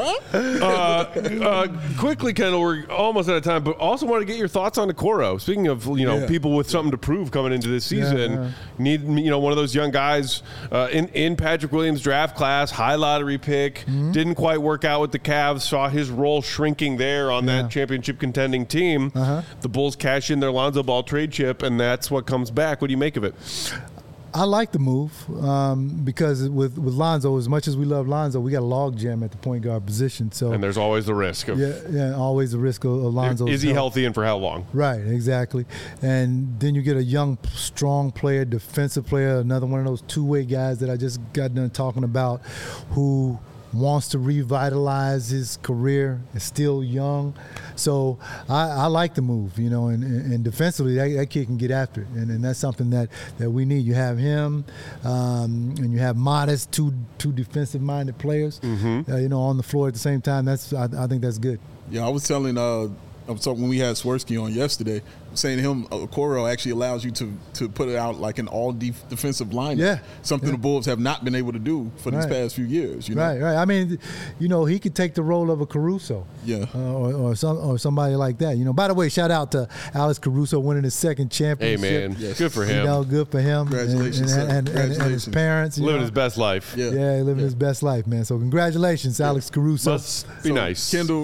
what? Quickly, Kendall, we're almost out of time, but also want to get your thoughts on Okoro. Speaking of, you know, people with something to prove coming into this season, need, you know, one of those young guys in Patrick Williams' draft class, high lottery pick, didn't quite work out with the Cavs. Saw his role shrinking there on that championship contending team. The Bulls cash in their Lonzo Ball trade chip, and that's what comes back. What do you make of it? I like the move because with Lonzo, as much as we love Lonzo, we got a log jam at the point guard position. So and there's always the risk of always the risk of Lonzo. Is he healthy and for how long? Right, exactly. And then you get a young, strong player, defensive player, another one of those two-way guys that I just got done talking about, who wants to revitalize his career, is still young. So I like the move, you know, and defensively, that kid can get after it. And that's something that we need. You have him, and you have Modest, two defensive-minded players, you know, on the floor at the same time. I think that's good. Yeah, I was talking when we had Swirsky on yesterday, saying to him, Okoro actually allows you to put it out like an all-defensive lineup. Yeah. Something the Bulls have not been able to do for these past few years. You know? Right. I mean, you know, he could take the role of a Caruso. Yeah. Or somebody like that. You know, by the way, shout out to Alex Caruso winning his second championship. Hey, man. Yes. Good for him. You know, good for him. Congratulations, and his parents. Living his best life. Yeah, living his best life, man. So congratulations, Alex Caruso. Must be nice. Kendall,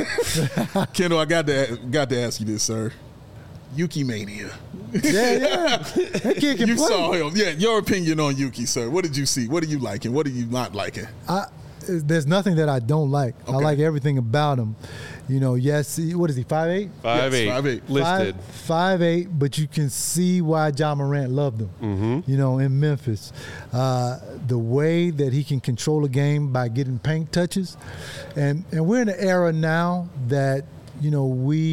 I got to ask you this, sir. Yuki Mania. Yeah. That kid can play. You saw him. Yeah, your opinion on Yuki, sir. What did you see? What are you liking? What are you not liking? There's nothing that I don't like. Okay. I like everything about him. You know, yes, what is he, 5'8"? 5'8". Listed. 5'8", but you can see why John Morant loved him, you know, in Memphis. The way that he can control a game by getting paint touches. And we're in an era now that, you know,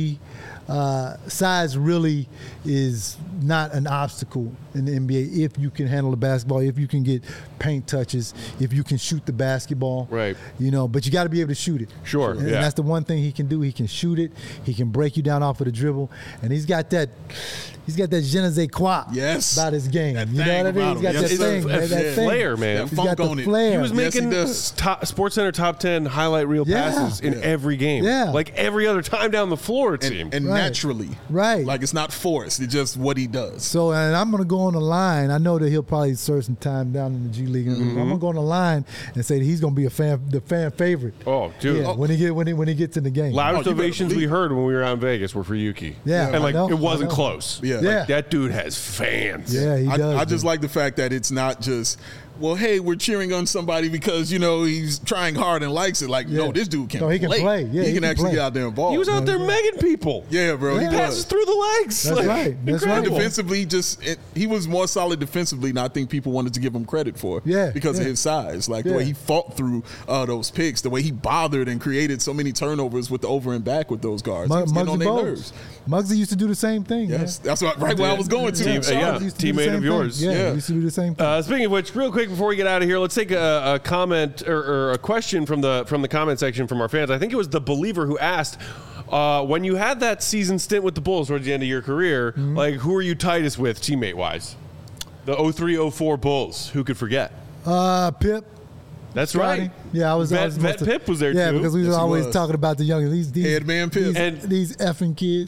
size really is not an obstacle in the NBA if you can handle the basketball, if you can get paint touches, if you can shoot the basketball. Right. You know, but you got to be able to shoot it. Sure. And that's the one thing he can do. He can shoot it. He can break you down off of the dribble. And he's got that je ne sais quoi about his game. That you know what I mean? He's got that thing. That flair, man. He's got the flair. He was making SportsCenter top 10 highlight reel passes in every game. Yeah. Like every other time down the floor, it seemed. And naturally. Right. Like it's not forced. It's just what he does. So, and I'm going to go on the line. I know that he'll probably serve some time down in the G League. I'm going to go on the line and say that he's going to be the fan favorite. Oh, dude. Yeah, when he gets in the game. Loudest ovations we heard when we were out in Vegas were for Yuki. Yeah. And like it wasn't close. Yeah. Like, that dude has fans. Yeah, he does. I just like the fact that it's not just, well, hey, we're cheering on somebody because, you know, he's trying hard and likes it. Like, no, this dude can play. He can play. Yeah, he can actually get out there and ball. He was out there megging people. Yeah, bro. He passes through the legs. That's right. That's right. Defensively, he was more solid defensively than I think people wanted to give him credit for. Yeah. Because of his size. Like, the way he fought through those picks, the way he bothered and created so many turnovers with the over and back with those guards. He was getting on their nerves. Muggsy used to do the same thing. Yes. That's right where I was going to. Teammate of yours. Yeah, he used to do the same thing. Speaking of which, real quick before we get out of here, let's take a comment or a question from the comment section from our fans. I think it was the Believer who asked, when you had that season stint with the Bulls towards the end of your career, like who are you tightest with teammate wise? The 03-04 Bulls. Who could forget? Pip. That's Scotty? right. Yeah, I was. Vet Pip was there yeah, too. because we Yes, was he always was. talking about the young these Headman Pip. And- these effing kids.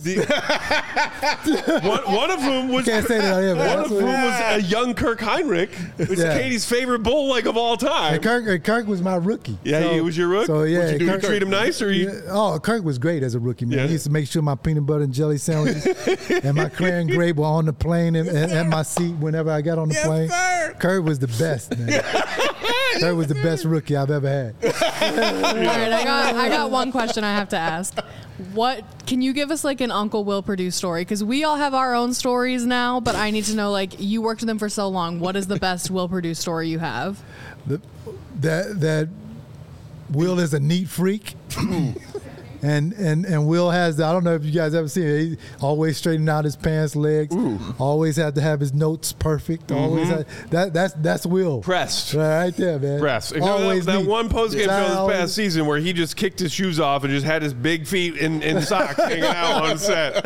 One of whom was Can't say that on here, man. one of whom was a young Kirk Heinrich. It's Yeah. Katie's favorite bull leg of all time. And Kirk was my rookie. Yeah, he was your rook? So yeah, What'd you do? Kirk, You treat him nice, or you? Yeah, oh, Kirk was great as a rookie, man. Yeah. He used to make sure my peanut butter and jelly sandwiches and my crayon grape were on the plane and at my seat whenever I got on the plane. sir. Kirk was the best, man. Kirk was the best rookie I've ever had. All right, I got one question I have to ask. What can you give us like an Uncle Will Purdue story? Because we all have our own stories now, but I need to know, like, you worked with him for so long. What is the best Will Purdue story you have? That Will is a neat freak. And Will has I don't know if you guys ever seen it. He always straightening out his pants legs. Always had to have his notes perfect. Always had, that's Will. Pressed. Right there, man. Press. Always that neat. one post-game show this Always- past season where he just kicked his shoes off and just had his big feet in socks hanging out on set.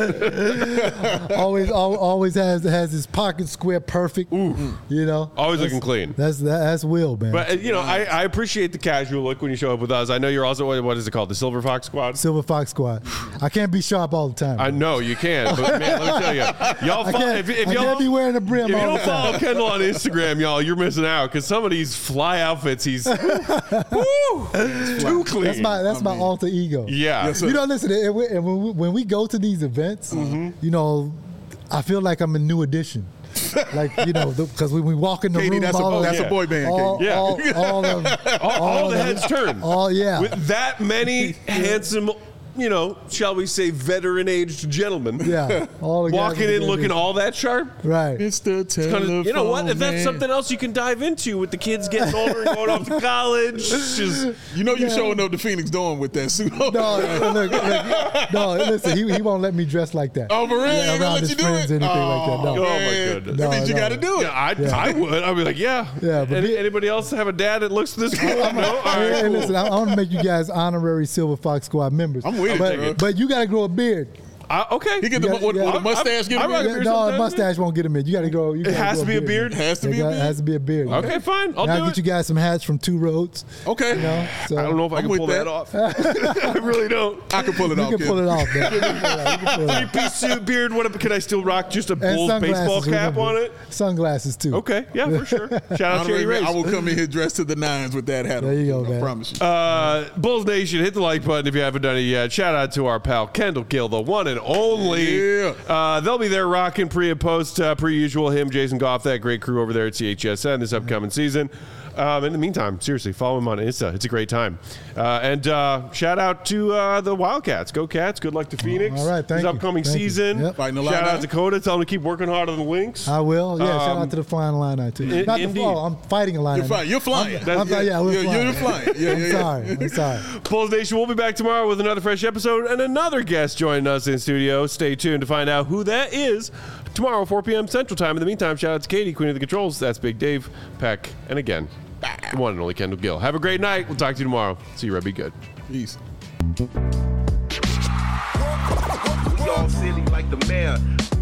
always has his pocket square perfect. You know, Always looking clean. That's Will, man. But, I appreciate the casual look when you show up with us. I know you're also, what is it called? The Silver Fox Squad? Silver Fox Squad. I can't be sharp all the time. I know you can, but man, let me tell you, y'all. I can't be wearing a brim If you all don't the time. follow Kendall on Instagram, y'all, you're missing out because some of these fly outfits, he's too clean. That's my alter ego. Yeah. Yes, sir. You know, listen, when we go to these events, you know, I feel like I'm a new edition. Like, you know, because when we walk in the Katie, room, that's a boy band, Katie. Yeah. all the heads turn. yeah. With that many handsome, shall we say, veteran-aged gentlemen. Yeah. All the guys Walking with in the looking big- all that sharp. Right. It's the telephone Kinda, you know what? If that's man. something else you can dive into with the kids getting older and going off to college, just You know you're showing up to Phoenix Dawn with that suit on. No, listen, he won't let me dress like that. Oh, for real? He ain't gonna around let his you do friends it? or anything like that. No. Oh, my man. goodness. That means you No, got to no. do it. yeah, I would. I'd be like, yeah. Yeah, but Anybody else have a dad that looks this good? No? All right, Hey, cool. listen, I want to make you guys honorary Silver Fox Squad members. I'm with it, bro. but you got to grow a beard. Okay. He get the Yeah, with yeah. the mustache. Get I him rock a in. beard No, a sometimes, mustache won't get him in. You got to grow. It has to be a beard? Has to be a beard. Has to be a beard. Okay, fine. I'll Now do get it. you guys some hats from Two Roads. Okay. You know, so I don't know if I I'm can with pull that. that off. I really don't. I can pull it You off. can Kim. pull it off, man. You can pull it off. You can pull it off. Three-piece suit, beard. What? Can I still rock just a And Bulls baseball sunglasses, cap remember. on it? Sunglasses too. Okay, yeah, for sure. Shout out Cherry Honorary, Race. I will come in here dressed to the nines with that hat on. There you go, I man. promise you. Bulls Nation, hit the like button if you haven't done it yet. Shout out to our pal Kendall Gill, the one and only. Yeah. They'll be there rocking pre and post, per usual. Him, Jason Goff, that great crew over there at CHSN this upcoming season. In the meantime, seriously, follow him on Insta. It's a great time. And shout out to the Wildcats. Go Cats. Good luck to Phoenix. All right, thank this you. upcoming Thank you. season. Yep. Fighting the Shout line out out. Dakota. Tell him to keep working harder than the Lynx. I will. Yeah, shout out to the flying line too. Not the indeed. I'm fighting a line. You're flying. You're flying. I'm flying. Yeah, we're flying. You're flying. Yeah, I'm sorry. I'm sorry. Bulls Nation, we'll be back tomorrow with another fresh episode and another guest joining us in studio. Stay tuned to find out who that is tomorrow, 4 p.m. Central Time. In the meantime, shout out to Katie, Queen of the Controls. That's Big Dave, Peck, and again, the one and only Kendall Gill. Have a great night. We'll talk to you tomorrow. See you, Red. Be good. Peace. We all silly like the mayor.